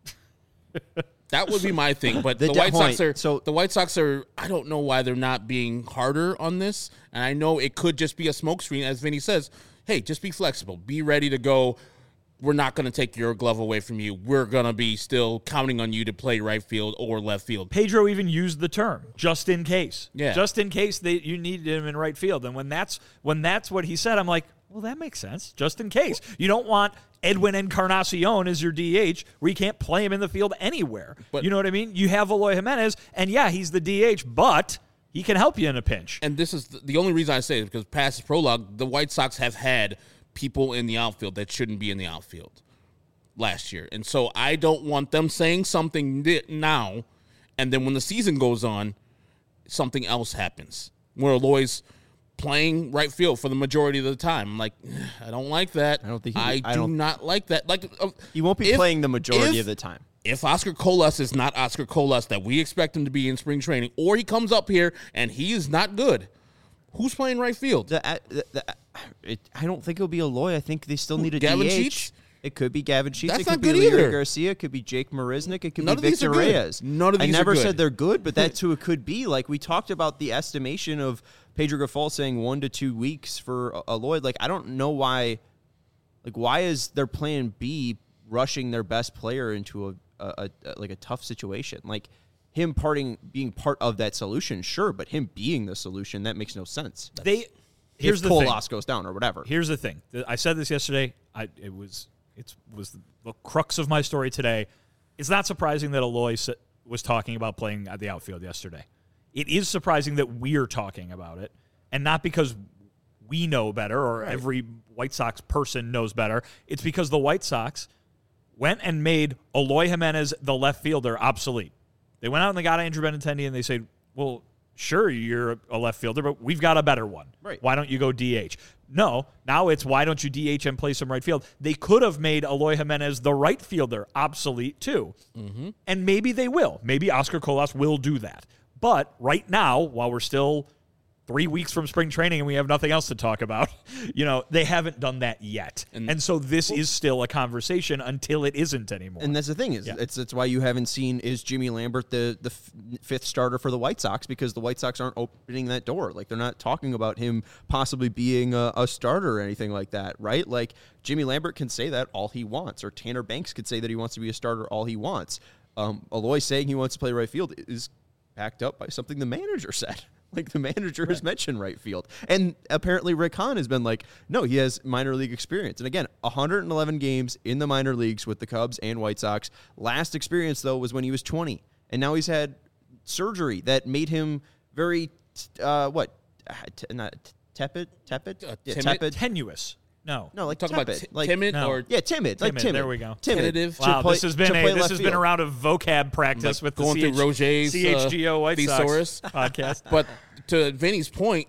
That would be my thing, but The the, de- White point, Sox are so- the White Sox are. I don't know why they're not being harder on this, and I know it could just be a smokescreen, as Vinny says. Hey, just be flexible, be ready to go. We're not going to take your glove away from you. We're going to be still counting on you to play right field or left field. Pedro even used the term just in case. Yeah. Just in case they you needed him in right field. And when that's when that's what he said, I'm like, well, that makes sense. Just in case. You don't want Edwin Encarnacion as your D H where you can't play him in the field anywhere. But- you know what I mean? You have Eloy Jimenez, and yeah, he's the D H, but he can help you in a pinch. And this is the, the only reason I say it, because past this prologue, the White Sox have had people in the outfield that shouldn't be in the outfield last year. And so I don't want them saying something now, and then when the season goes on, something else happens where Eloy's playing right field for the majority of the time. I'm like, I don't like that. I don't think he- I, I do don't- not like that. Like uh, He won't be if- playing the majority if- of the time. If Oscar Colas is not Oscar Colas that we expect him to be in spring training, or he comes up here and he is not good, who's playing right field? The, uh, the, the, it, I don't think it'll be Eloy. I think they still need a Gavin D H. Sheets? It could be Gavin Sheets. That's it could not be good Leury either. Garcia. It could be Jake Marisnik. It could None be of these Victor are good. Reyes. None of I these are never good. said they're good, but that's who it could be. Like we talked about the estimation of Pedro Grifol saying one to two weeks for Eloy. Like I don't know why. Like why is their plan B rushing their best player into a, a, a like a tough situation? Like him parting being part of that solution, sure, but him being the solution, that makes no sense. They here's if the thing. Colas goes down or whatever. Here's the thing. I said this yesterday. I it was it was the crux of my story today. It's not surprising that Eloy was talking about playing at the outfield yesterday. It is surprising that we're talking about it, and not because we know better or Right. every White Sox person knows better. It's because the White Sox went and made Eloy Jimenez, the left fielder, obsolete. They went out and they got Andrew Benintendi, and they said, well, sure, you're a left fielder, but we've got a better one. Right. Why don't you go D H? No, now it's why don't you D H and play some right field? They could have made Eloy Jimenez, the right fielder, obsolete too. Mm-hmm. And maybe they will. Maybe Oscar Colas will do that. But right now, while we're still three weeks from spring training and we have nothing else to talk about, you know, they haven't done that yet. And, and so this is still a conversation until it isn't anymore. And that's the thing is, Yeah. it's it's why you haven't seen is Jimmy Lambert the the f- fifth starter for the White Sox, because the White Sox aren't opening that door. Like they're not talking about him possibly being a, a starter or anything like that, right? Like Jimmy Lambert can say that all he wants, or Tanner Banks could say that he wants to be a starter all he wants. Um, Eloy saying he wants to play right field is backed up by something the manager said. Like the manager right. has mentioned right field. And apparently Rick Hahn has been like, no, he has minor league experience. And again, one hundred eleven games in the minor leagues with the Cubs and White Sox. Last experience, though, was when he was twenty. And now he's had surgery that made him very, uh, what, t- not tepid? Tepid? Uh, yeah, timid? tepid. Tenuous. No. No, like Talk tepid. about t- like, timid no. or Yeah, timid. Like Timid, timid. there we go. Timid. Tentative. To Wow, play- this has been to a play this left has been a field. round of vocab practice Like with going the through C H- Roger's, C H G O uh, White thesaurus. Sox podcast. But to Vinny's point,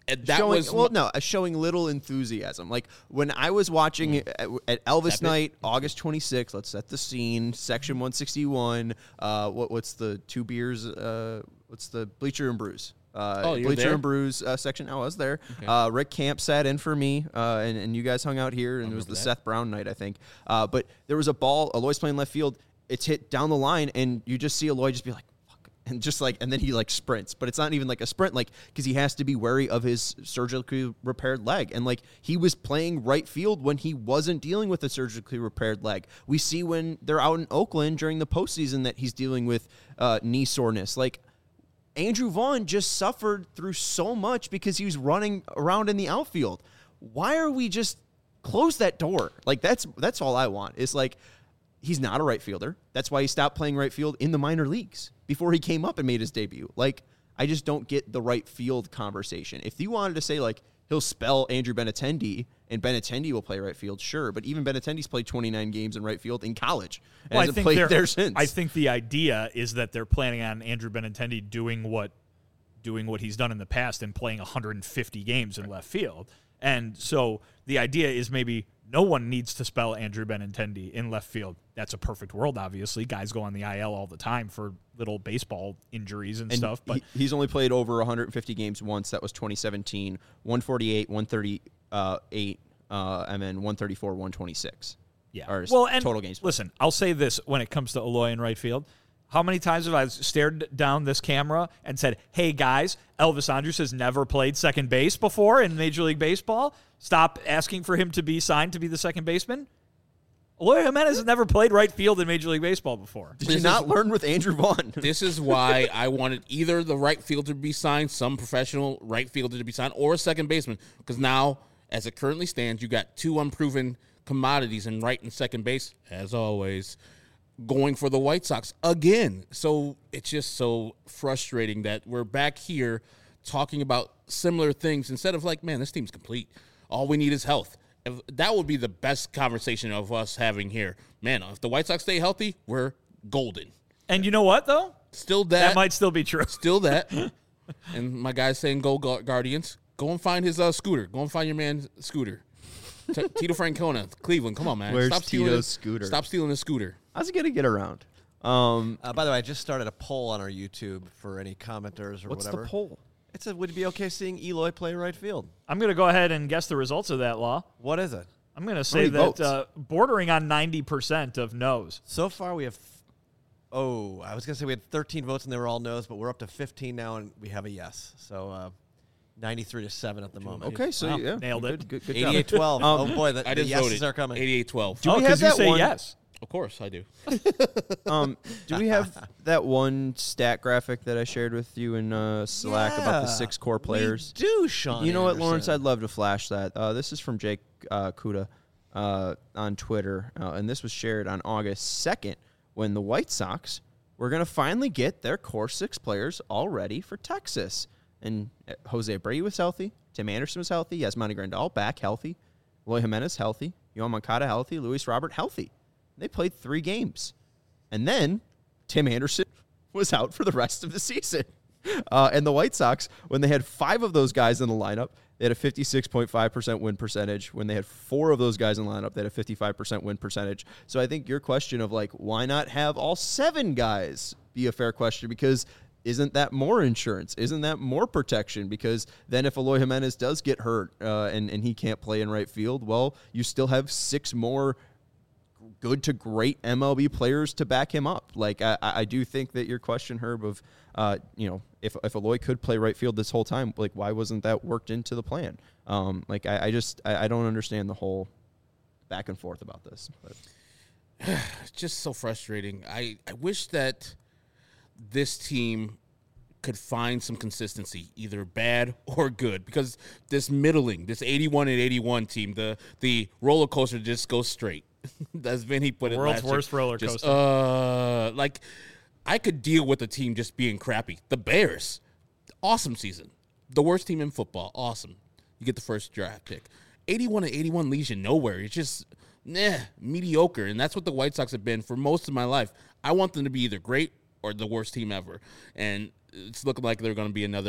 And that showing, was well, no, uh, showing little enthusiasm. Like when I was watching it at, at Elvis Step it. Night, August twenty-sixth. Let's set the scene. Section one sixty-one. Uh, what what's the two beers? Uh, what's the Bleacher and Brews? Uh, Oh, you're Bleacher there? and Brews uh, section. I was there. Okay. Uh, Rick Camp sat in for me, uh, and, and you guys hung out here, and it was the remember that. Seth Brown night, I think. Uh, but there was a ball. Aloy's playing left field. It's hit down the line, and you just see Aloy just be like, fuck. And just like, and then he like sprints, but it's not even like a sprint, like, because he has to be wary of his surgically repaired leg. And like, he was playing right field when he wasn't dealing with a surgically repaired leg. We see when they're out in Oakland during the postseason that he's dealing with uh, knee soreness. Like, Andrew Vaughn just suffered through so much because he was running around in the outfield. Why are we just close that door? Like, that's that's all I want. Is like, he's not a right fielder. That's why he stopped playing right field in the minor leagues before he came up and made his debut. Like, I just don't get the right field conversation. If you wanted to say, like, he'll spell Andrew Benintendi and Benintendi will play right field, sure. But even Benintendi's played twenty-nine games in right field in college and Well, I hasn't think played they're- there since. I think the idea is that they're planning on Andrew Benintendi doing what doing what he's done in the past and playing one hundred fifty games in left field. And so the idea is maybe no one needs to spell Andrew Benintendi in left field. That's a perfect world, obviously. Guys go on the I L all the time for little baseball injuries and, And stuff. But he, he's only played over one hundred fifty games once. That was twenty seventeen, one forty-eight, one thirty-eight, uh, and then one thirty-four, one twenty-six. yeah, Or well, and total games played. listen, I'll say this when it comes to Aloy in right field. How many times have I stared down this camera and said, hey, guys, Elvis Andrus has never played second base before in Major League Baseball. Stop asking for him to be signed to be the second baseman. Aloy Jimenez has never played right field in Major League Baseball before. Did you not learn with Andrew Vaughn? This is why I wanted either the right fielder to be signed, some professional right fielder to be signed, or a second baseman. Because now, as it currently stands, you got two unproven commodities in right and second base, as always, going for the White Sox again. So it's just so frustrating that we're back here talking about similar things instead of like, man, this team's complete. All we need is health. If, that would be the best conversation of us having here. Man, if the White Sox stay healthy, we're golden. And you know what, though? Still that. That might still be true. Still that. And my guy's saying, go Gu- Guardians. Go and find his uh, scooter. Go and find your man's scooter. T- Tito Francona, Cleveland. Come on, man. Where's Stop stealing Tito's his- scooter? Stop stealing his scooter. How's he going to get around? Um, Uh, by the way, I just started a poll on our YouTube for any commenters or what's whatever. the poll? It's a, would it be okay seeing Eloy play right field? I'm going to go ahead and guess the results of that, Law. What is it? I'm going to say many that votes? uh, bordering on ninety percent of no's. So far, we have. Oh, I was gonna say we had thirteen votes and they were all no's, but we're up to fifteen now, and we have a yes. So uh, ninety-three to seven at the moment. Okay, so Wow, yeah, nailed good, it. Good, good, job. Eighty-eight twelve. Um, oh boy, the, I the just yeses voted. are coming. eighty-eight twelve. Do oh, we have because you that say one- yes. Of course, I do. Um, do we have that one stat graphic that I shared with you in uh, Slack about the Yeah, six core players? We do, Sean. You know what, Anderson. Lawrence? I'd love to flash that. Uh, this is from Jake uh, Kuda uh, on Twitter, uh, and this was shared on August second when the White Sox were going to finally get their core six players all ready for Texas. And uh, Jose Brady was healthy. Tim Anderson was healthy. Yasmani Grandal back healthy. Eloy Jimenez healthy. Yohan Moncada healthy. Luis Robert healthy. They played three games. And then Tim Anderson was out for the rest of the season. Uh, and the White Sox, when they had five of those guys in the lineup, they had a fifty-six point five percent win percentage. When they had four of those guys in the lineup, they had a fifty-five percent win percentage. So I think your question of, like, why not have all seven guys be a fair question, because isn't that more insurance? Isn't that more protection? Because then if Eloy Jimenez does get hurt uh, and, and he can't play in right field, well, you still have six more good to great M L B players to back him up. Like, I, I do think that your question, Herb, of, uh, you know, if, if Eloy could play right field this whole time, like, why wasn't that worked into the plan? Um, like, I, I just, I, I don't understand the whole back and forth about this. But. It's just so frustrating. I, I wish that this team could find some consistency, either bad or good, because this middling, this eighty-one and eighty-one team, the the roller coaster just goes straight. As Vinny put it World's last year. worst roller Just, coaster. uh, like, I could deal with the team just being crappy. The Bears, awesome season. The worst team in football, awesome. You get the first draft pick. eighty-one and eighty-one leads you nowhere. It's just, nah, mediocre. And that's what the White Sox have been for most of my life. I want them to be either great or the worst team ever. And it's looking like they're going to be another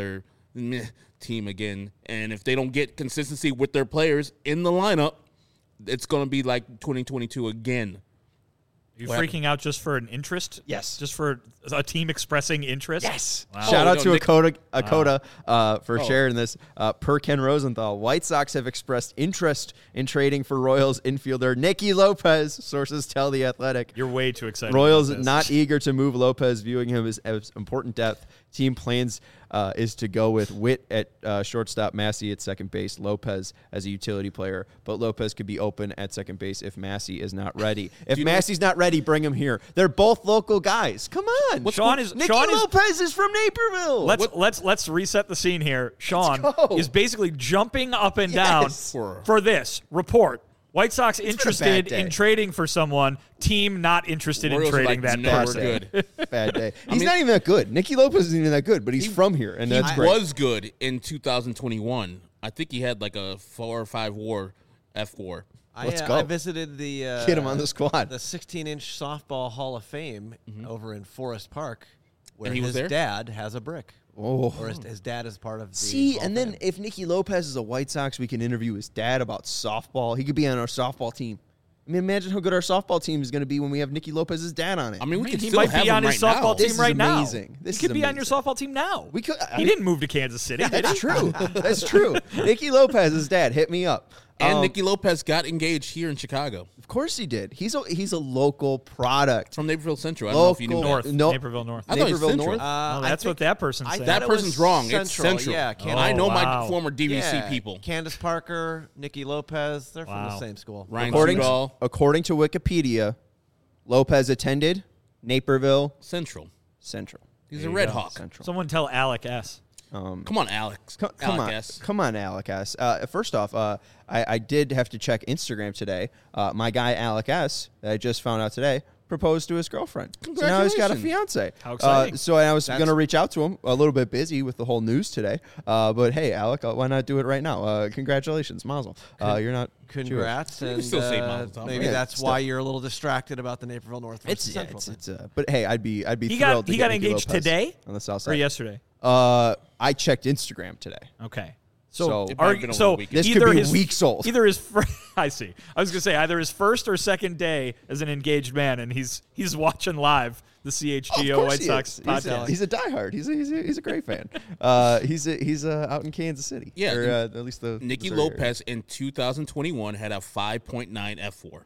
meh team again. And if they don't get consistency with their players in the lineup, it's going to be like twenty twenty-two again. Are you What freaking out just for an interest? Yes. Just for a team expressing interest? Yes. Wow. Shout Oh, out no, to Nick- Akota, Akota uh, for Oh. sharing this. Uh, per Ken Rosenthal, White Sox have expressed interest in trading for Royals infielder Nicky Lopez. Sources tell The Athletic. You're way too excited. Royals about this. not eager to move Lopez, viewing him as, as important depth. Team plans uh, is to go with Witt at uh, shortstop, Massey at second base, Lopez as a utility player. But Lopez could be open at second base if Massey is not ready. If you know- Massey's not ready, bring him here. They're both local guys. Come on. What's Sean is- Nicky Sean is- Lopez is from Naperville. Let's let's let's reset the scene here. Sean go. is basically jumping up and Yes. down For- for this report. White Sox been a bad interested day. in trading for someone. Team not interested Royals in are trading like, that no, person. we're good. Bad day. He's mean- not even that good. Nicky Lopez isn't even that good, but he's from here, and He that's great. was good in two thousand twenty-one. I think he had like a four or five war F four. I, Let's uh, go. I visited the uh, Get him on the squad. the sixteen-inch softball Hall of Fame over in Forest Park, where And he was his there? dad has a brick, Oh. or his, his dad is part of the. See, Hall and of then Fame. if Nicky Lopez is a White Sox, we can interview his dad about softball. He could be on our softball team. I mean, imagine how good our softball team is going to be when we have Nicky Lopez's dad on it. I mean, we I mean, could he still might have be him on his right softball now. This team is right now. amazing. This he could is be on your amazing. softball team now. we could. I he mean, didn't move to Kansas City. did That's he? true. That's true. Nicky Lopez's dad hit me up. And Um, Nicky Lopez got engaged here in Chicago of course he did. He's a he's a local product. from Naperville Central. I don't know if you knew Local- that. North. No. Naperville North. I thought he was Naperville Central. North. Uh, Oh, I that's what think- that person's I saying. That thought it person's was wrong. It's Central. Central. Yeah, Oh, Candace, I know my wow. former D V C yeah, people. Candace Parker, Nicky Lopez, they're from Wow. the same school. Ryan According to, Sudol, according to Wikipedia, Lopez attended Naperville Central. Central. He's There a you Red go. Hawk. Central. Someone tell Alec S. Um, Come on, Alex. Co- come Alec on, S. come on, Alec S. Uh, first off, uh, I, I did have to check Instagram today. Uh, my guy Alec S. that I just found out today proposed to his girlfriend. So now he's got a Congratulations. fiance. How exciting. Uh, so I was That's- going to reach out to him. A little bit busy with the whole news today. Uh, but hey, Alec, uh, why not do it right now? Uh, congratulations, Mazel. Uh, you're not Jewish. Congrats, You can and still say uh, Mazel Tov, maybe right? that's Yeah, why still. you're a little distracted about the Naperville North versus It's, yeah, Central. it's, thing. it's uh, but hey, I'd be I'd be He thrilled got to he get got Nicky engaged Lopez today on the south or side. yesterday. Uh, I checked Instagram today. Okay. So- So, It might have are, been over so the weekend. This either could be his, weeks old. Either his fir- I see. I was gonna say either his first or second day as an engaged man, and he's he's watching live the C H G Of O course White he Sox is. He's a, podcast. he's a diehard. He's a, he's a, he's a great fan. Uh, he's a, he's uh, out in Kansas City. Yeah, or, and uh, at least the Nicky Missouri area. Lopez in two thousand twenty-one had a five point nine F four.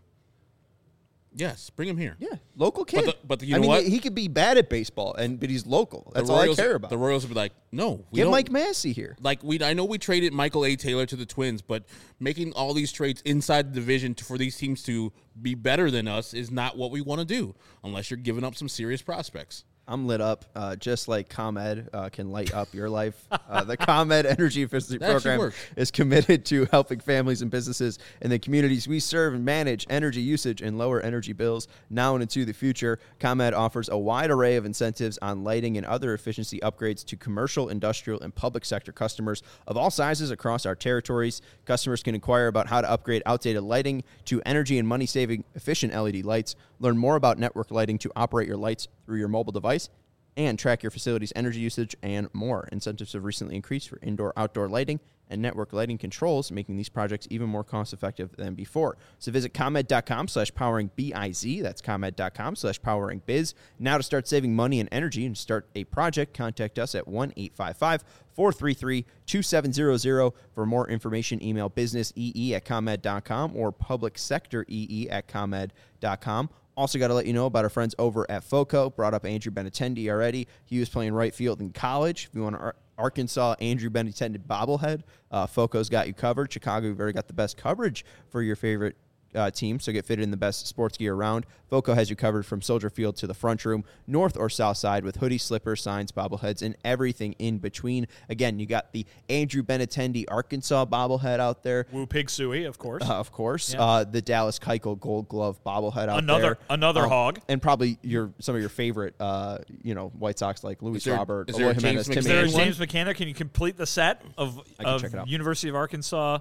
Yes, bring him here. Yeah, local kid. the- but you I know mean, what? he could be bad at baseball, and but he's local. That's the all Royals, I care about. The Royals would be like, no, we Get don't. Mike Massey here. Like we, I know we traded Michael A. Taylor to the Twins, but making all these trades inside the division to, for these teams to be better than us is not what we want to do, unless you're giving up some serious prospects. I'm lit up, uh, just like ComEd uh, can light up your life. Uh, the ComEd Energy Efficiency That actually Program works. is committed to helping families and businesses in the communities we serve manage energy usage and lower energy bills now and into the future. ComEd offers a wide array of incentives on lighting and other efficiency upgrades to commercial, industrial, and public sector customers of all sizes across our territories. Customers can inquire about how to upgrade outdated lighting to energy and money-saving efficient L E D lights. Learn more about network lighting to operate your lights through your mobile device and track your facility's energy usage and more. Incentives have recently increased for indoor-outdoor lighting and network lighting controls, making these projects even more cost-effective than before. So visit ComEd.com slash powering B-I-Z. That's ComEd.com slash powering biz. Now to start saving money and energy and start a project, contact us at one eight five five, four three three, two seven zero zero. For more information, email businessee at ComEd.com or publicsectoree at ComEd.com. Also got to let you know about our friends over at FOCO. Brought up Andrew Benintendi already. He was playing right field in college. If you want an Ar- Arkansas Andrew Benintendi bobblehead, uh, FOCO's got you covered. Chicago, we've already got the best coverage for your favorite uh, team, so get fitted in the best sports gear around. FOCO has you covered from Soldier Field to the front room, north or south side, with hoodies, slippers, signs, bobbleheads, and everything in between. Again, you got the Andrew Benintendi Arkansas bobblehead out there. Woo Pig Suey, of course. Uh, of course, Yeah. uh, the Dallas Keuchel Gold Glove bobblehead out Another- there. another Um, hog. and probably your some of your favorite, uh, you know, White Sox like Luis there- Robert, is there a Eloy Jimenez, James Timmy Is there a McMahon Anderson. James McCann? Can you complete the set of, I can of check it out. University of Arkansas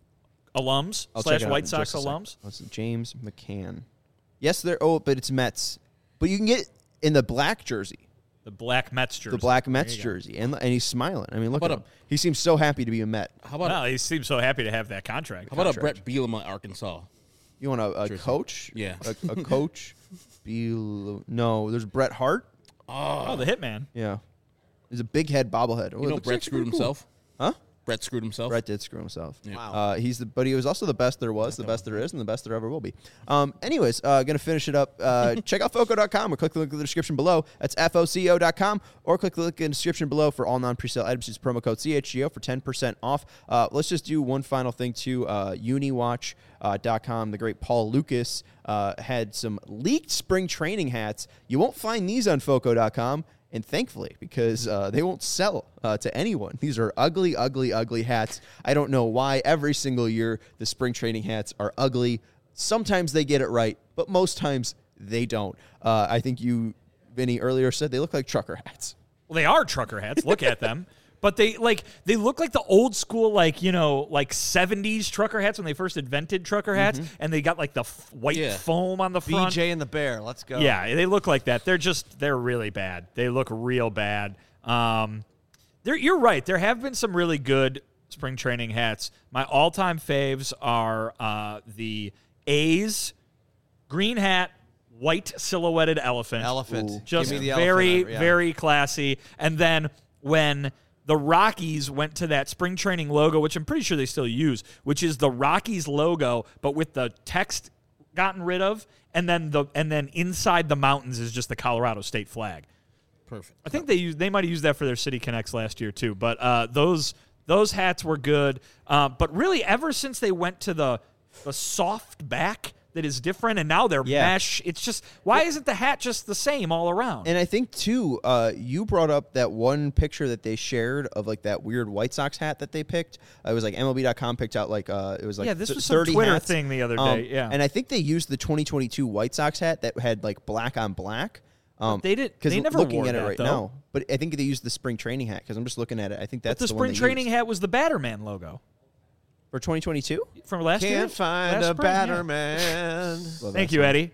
alums I'll slash check it out White in Sox just a sec. alums? Let's see, James McCann. Yes, there. Oh, but it's Mets. But you can get in the black jersey. The black Mets jersey. the black Mets There you go. jersey, and and he's smiling. I mean, look at about him. He seems so happy to be a Met. How about Well, he seems so happy to have that contract. how about a contract. Brett Bielema, Arkansas? You want a, a Jersey. coach? Yeah. a, a coach. Biel- no, there's Bret Hart. Oh, the Hitman. Yeah, he's a big head bobblehead. Oh, You it know looks Brett actually screwed pretty cool. himself. Huh? Brett screwed himself. Brett did screw himself. Wow. Uh, he's the, but he was also the best there was, the best there is, and the best there ever will be. Um, anyways, uh, gonna finish it up. Uh, check out foco dot com or click the link in the description below. That's F O C O dot com, or click the link in the description below for all non-presale items. Use promo code C H G O for ten percent off. Uh, let's just do one final thing too. Uh, Uniwatch dot com. The great Paul Lucas uh, had some leaked spring training hats. You won't find these on foco dot com. And thankfully, because uh, they won't sell uh, to anyone. These are ugly, ugly, ugly hats. I don't know why every single year the spring training hats are ugly. Sometimes they get it right, but most times they don't. Uh, I think you, Vinny, earlier said they look like trucker hats. Well, they are trucker hats. Look at them. But they like they look like the old school, like, you know, like seventies trucker hats when they first invented trucker hats, and they got like the f- white Yeah. foam on the front. B J and the Bear. Let's go. Yeah, they look like that. They're just they're really bad. They look real bad. Um, there, you're right. There have been some really good spring training hats. My all-time faves are uh, the A's green hat, white silhouetted elephant. Elephant. Ooh. Just Give me the very, elephant, yeah. very classy. And then when the Rockies went to that spring training logo, which I'm pretty sure they still use, which is the Rockies logo, but with the text gotten rid of, and then the and then inside the mountains is just the Colorado state flag. Perfect. I think they used they might have used that for their City Connects last year too. But uh, those those hats were good. Uh, but really, ever since they went to the the soft back that is different, and now they're Yeah. mesh. It's just why isn't the hat just the same all around? And I think, too, uh, you brought up that one picture that they shared of, like, that weird White Sox hat that they picked. Uh, it was, like, M L B dot com picked out, like, uh, it was, like, Yeah, this th- was some thirty Twitter hats. thing the other Um, day, yeah. And I think they used the twenty twenty-two White Sox hat that had, like, black on black. Um, they did- 'cause they never looking wore at it that, right though. now. But I think they used the spring training hat, because I'm just looking at it. I think that's but the the one spring they training used. hat was the Batterman logo For twenty twenty-two? from last year. Can't find Last a spring, yeah. batter man. Well, Thank that's you, fine. Eddie.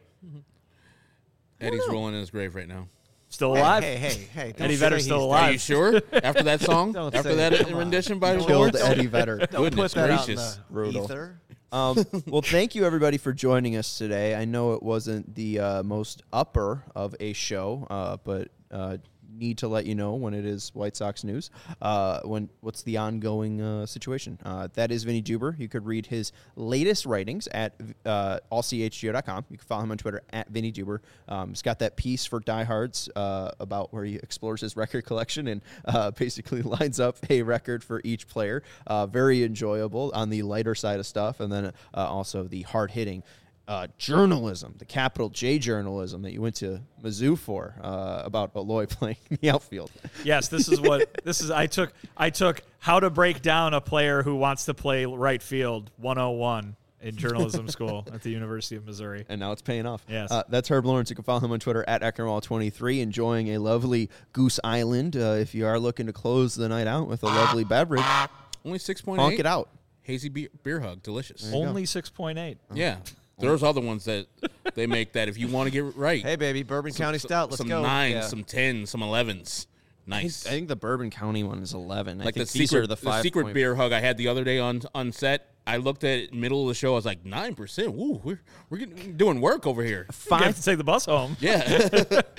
Eddie's rolling in his grave right now. Still alive. Hey, hey, hey. hey don't Eddie say Vedder's he's still dead. alive. Are you sure? After that song? Don't After say that it. Come on. rendition by Killed George? Eddie Vedder. Don't Goodness put that out in gracious. the Brutal. ether. Um, well, thank you, everybody, for joining us today. I know it wasn't the uh, most upper of a show, uh, but uh, need to let you know when it is White Sox news, uh, when what's the ongoing uh, situation. Uh, that is Vinny Duber. You could read his latest writings at uh, all c h g o dot com. You can follow him on Twitter at Vinny Duber. Um, he's got that piece for Diehards uh, about where he explores his record collection and uh, basically lines up a record for each player. Uh, very enjoyable on the lighter side of stuff, and then uh, also the hard-hitting Uh, journalism, the capital J journalism that you went to Mizzou for uh, about Aloy playing in the outfield. Yes, this is what this is. I took I took how to break down a player who wants to play right field one oh one in journalism school at the University of Missouri. And now it's paying off. Yes. Uh, that's Herb Lawrence. You can follow him on Twitter at Eckerwall twenty-three, enjoying a lovely Goose Island. Uh, if you are looking to close the night out with a lovely beverage, Only six point honk eight. it out. Hazy beer, beer hug. Delicious. Only six point eight. Yeah. There's other ones that they make that if you want to get right. Hey, baby, Bourbon County Stout. Let's some go. nines, Yeah. some tens, some elevens. I think, Nice. I think the Bourbon County one is eleven. I like the think these secret, are the the, five. secret point- beer hug I had the other day on on set. I looked at it middle of the show. I was like nine percent. Woo, we're we're getting, doing work over here. You have Five to take the bus home. Yeah.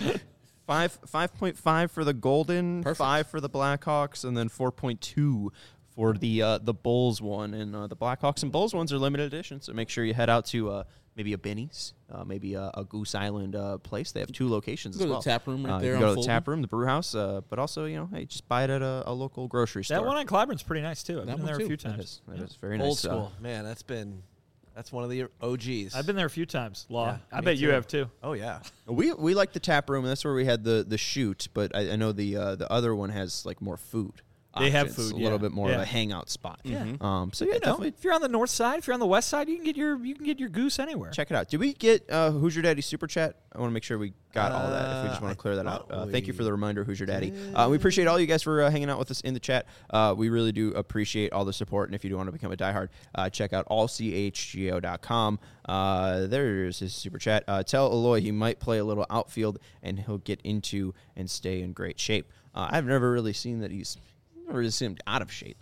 Five five point five for the Golden, Perfect. five for the Blackhawks, and then four point two for the uh, the Bulls one. And uh, the Blackhawks and Bulls ones are limited edition, so make sure you head out to uh, maybe a Benny's, uh, maybe a, a Goose Island uh, place. They have two locations Go as to the well. tap room right Uh, there You can on go to the Fulton. tap room, the brew house, uh, but also you know, hey, just buy it at a, a local grocery store. That one on Clyburn's pretty nice too. I've That been one there too. a few That times. is, that is very Old nice. uh, school. Man, that's been, that's one of the O Gs. I've been there a few times. Law. Yeah, I me bet you too. have too. Oh, yeah. We we like the tap room, and that's where we had the the shoot. But I, I know the uh, the other one has like more food. They have options, food, a little yeah. bit more of Yeah. a hangout spot. Yeah. Um, so yeah, You know, definitely if you're on the north side, if you're on the west side, you can get your you can get your goose anywhere. check it out. Did we get uh, Who's Your Daddy super chat? I want to make sure we got all that. If we just Uh, want to clear that I out. thought Uh, thank you we for the reminder, Who's Your Daddy. Uh, we appreciate all you guys for uh, hanging out with us in the chat. Uh, we really do appreciate all the support. And if you do want to become a diehard, uh, check out all c h g o dot com. Uh, there's his super chat. Uh, tell Eloy he might play a little outfield and he'll get into and stay in great shape. Uh, I've never really seen that he's never really seen him out of shape.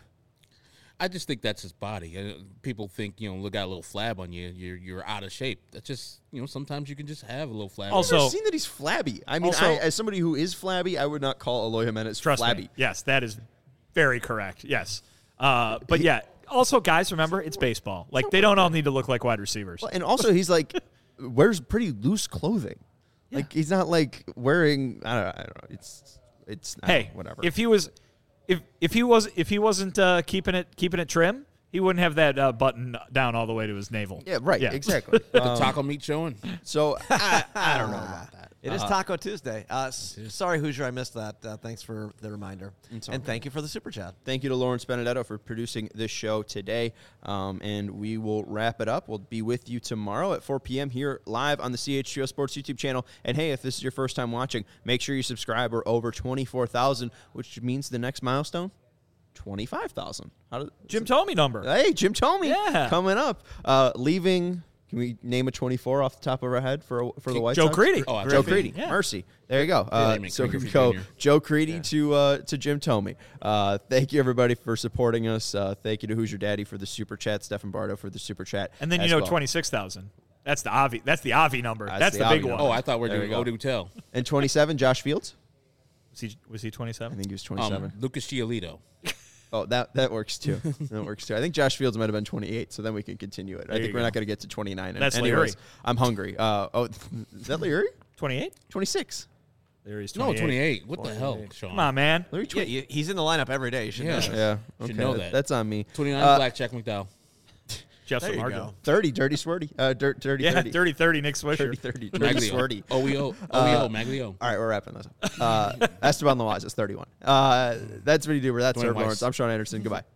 I just think that's his body. Uh, people think, you know, look, got a little flab on you, you're you're out of shape. That's just, you know, sometimes you can just have a little flab. Also- I've never So- seen that he's flabby. I mean, Also- I, as somebody who is flabby, I would not call Eloy Jimenez Trust flabby. me. Yes, that is very correct. Yes. Uh, but yeah, also, guys, remember, it's baseball. Like, they don't all need to look like wide receivers. Well, and also, he's like wears pretty loose clothing. Like he's not like wearing. I don't, I don't know. It's it's I don't Hey, know, whatever. if he was, if if he was, if he wasn't uh, keeping it keeping it trim, he wouldn't have that uh, button down all the way to his navel. yeah, right. Yeah. Exactly. the Um, taco meat showing. so I, I don't know about that. It is Uh, Taco Tuesday. Uh, s- sorry, Hoosier, I missed that. Uh, thanks for the reminder. It's all And good. thank you for the super chat. Thank you to Lawrence Benedetto for producing this show today. Um, and we will wrap it up. We'll be with you tomorrow at four p.m. here live on the C H G O Sports YouTube channel. And hey, if this is your first time watching, make sure you subscribe. We're over twenty-four thousand, which means the next milestone, twenty-five thousand. How did Jim Tomey number. Hey, Jim Tomey Yeah. coming up. Uh, leaving. Can we name a twenty-four off the top of our head for for the White Joe Sox? Creedy. Oh, I Joe Griffey. Creedy. Yeah. Mercy. There you go. Uh, name it, so we Griffey go Junior Joe Creedy to uh, to Jim Tomey. Uh, thank you, everybody, for supporting us. Uh, thank you to Who's Your Daddy for the super chat, Stefan Bardo for the super chat. And then you as know well. twenty-six thousand. That's the Avi. That's the Avi number. That's That's, the the, big Avi one. number. Oh, I thought we were There doing we go. Odoo Tell. And twenty-seven, Josh Fields. Was he was he I twenty-seven? think he was twenty-seven. Um, Lucas Giolito. Oh, that that works too. That works too. I think Josh Fields might have been twenty-eight, so then we can continue it. I There think you we're go. not going to get to twenty-nine. That's Anyways, Leary. I'm hungry. Uh, oh, is that Leary? twenty-eight? twenty-six. There he's No, twenty-eight. twenty-eight. What the hell, Sean? Come on, man. Leary Yeah, twenty. you, he's in the lineup every day. You should Yeah. know. Yeah, Should okay, know that- that. That's on me. twenty-nine, Uh, Black Jack McDowell. Jeff There you Samardzija. go. thirty, dirty swordy. Uh, dirt, dirty, Yeah, thirty. thirty thirty, Nick Swisher. thirty, thirty, dirty swordy. Maglio. O E O. Uh, O E O. Maglio. All right, we're wrapping this up. Uh, Esteban Loaz is thirty-one. Uh, that's what you do. That's Dwayne Herb Weiss. Lawrence. I'm Sean Anderson. Goodbye.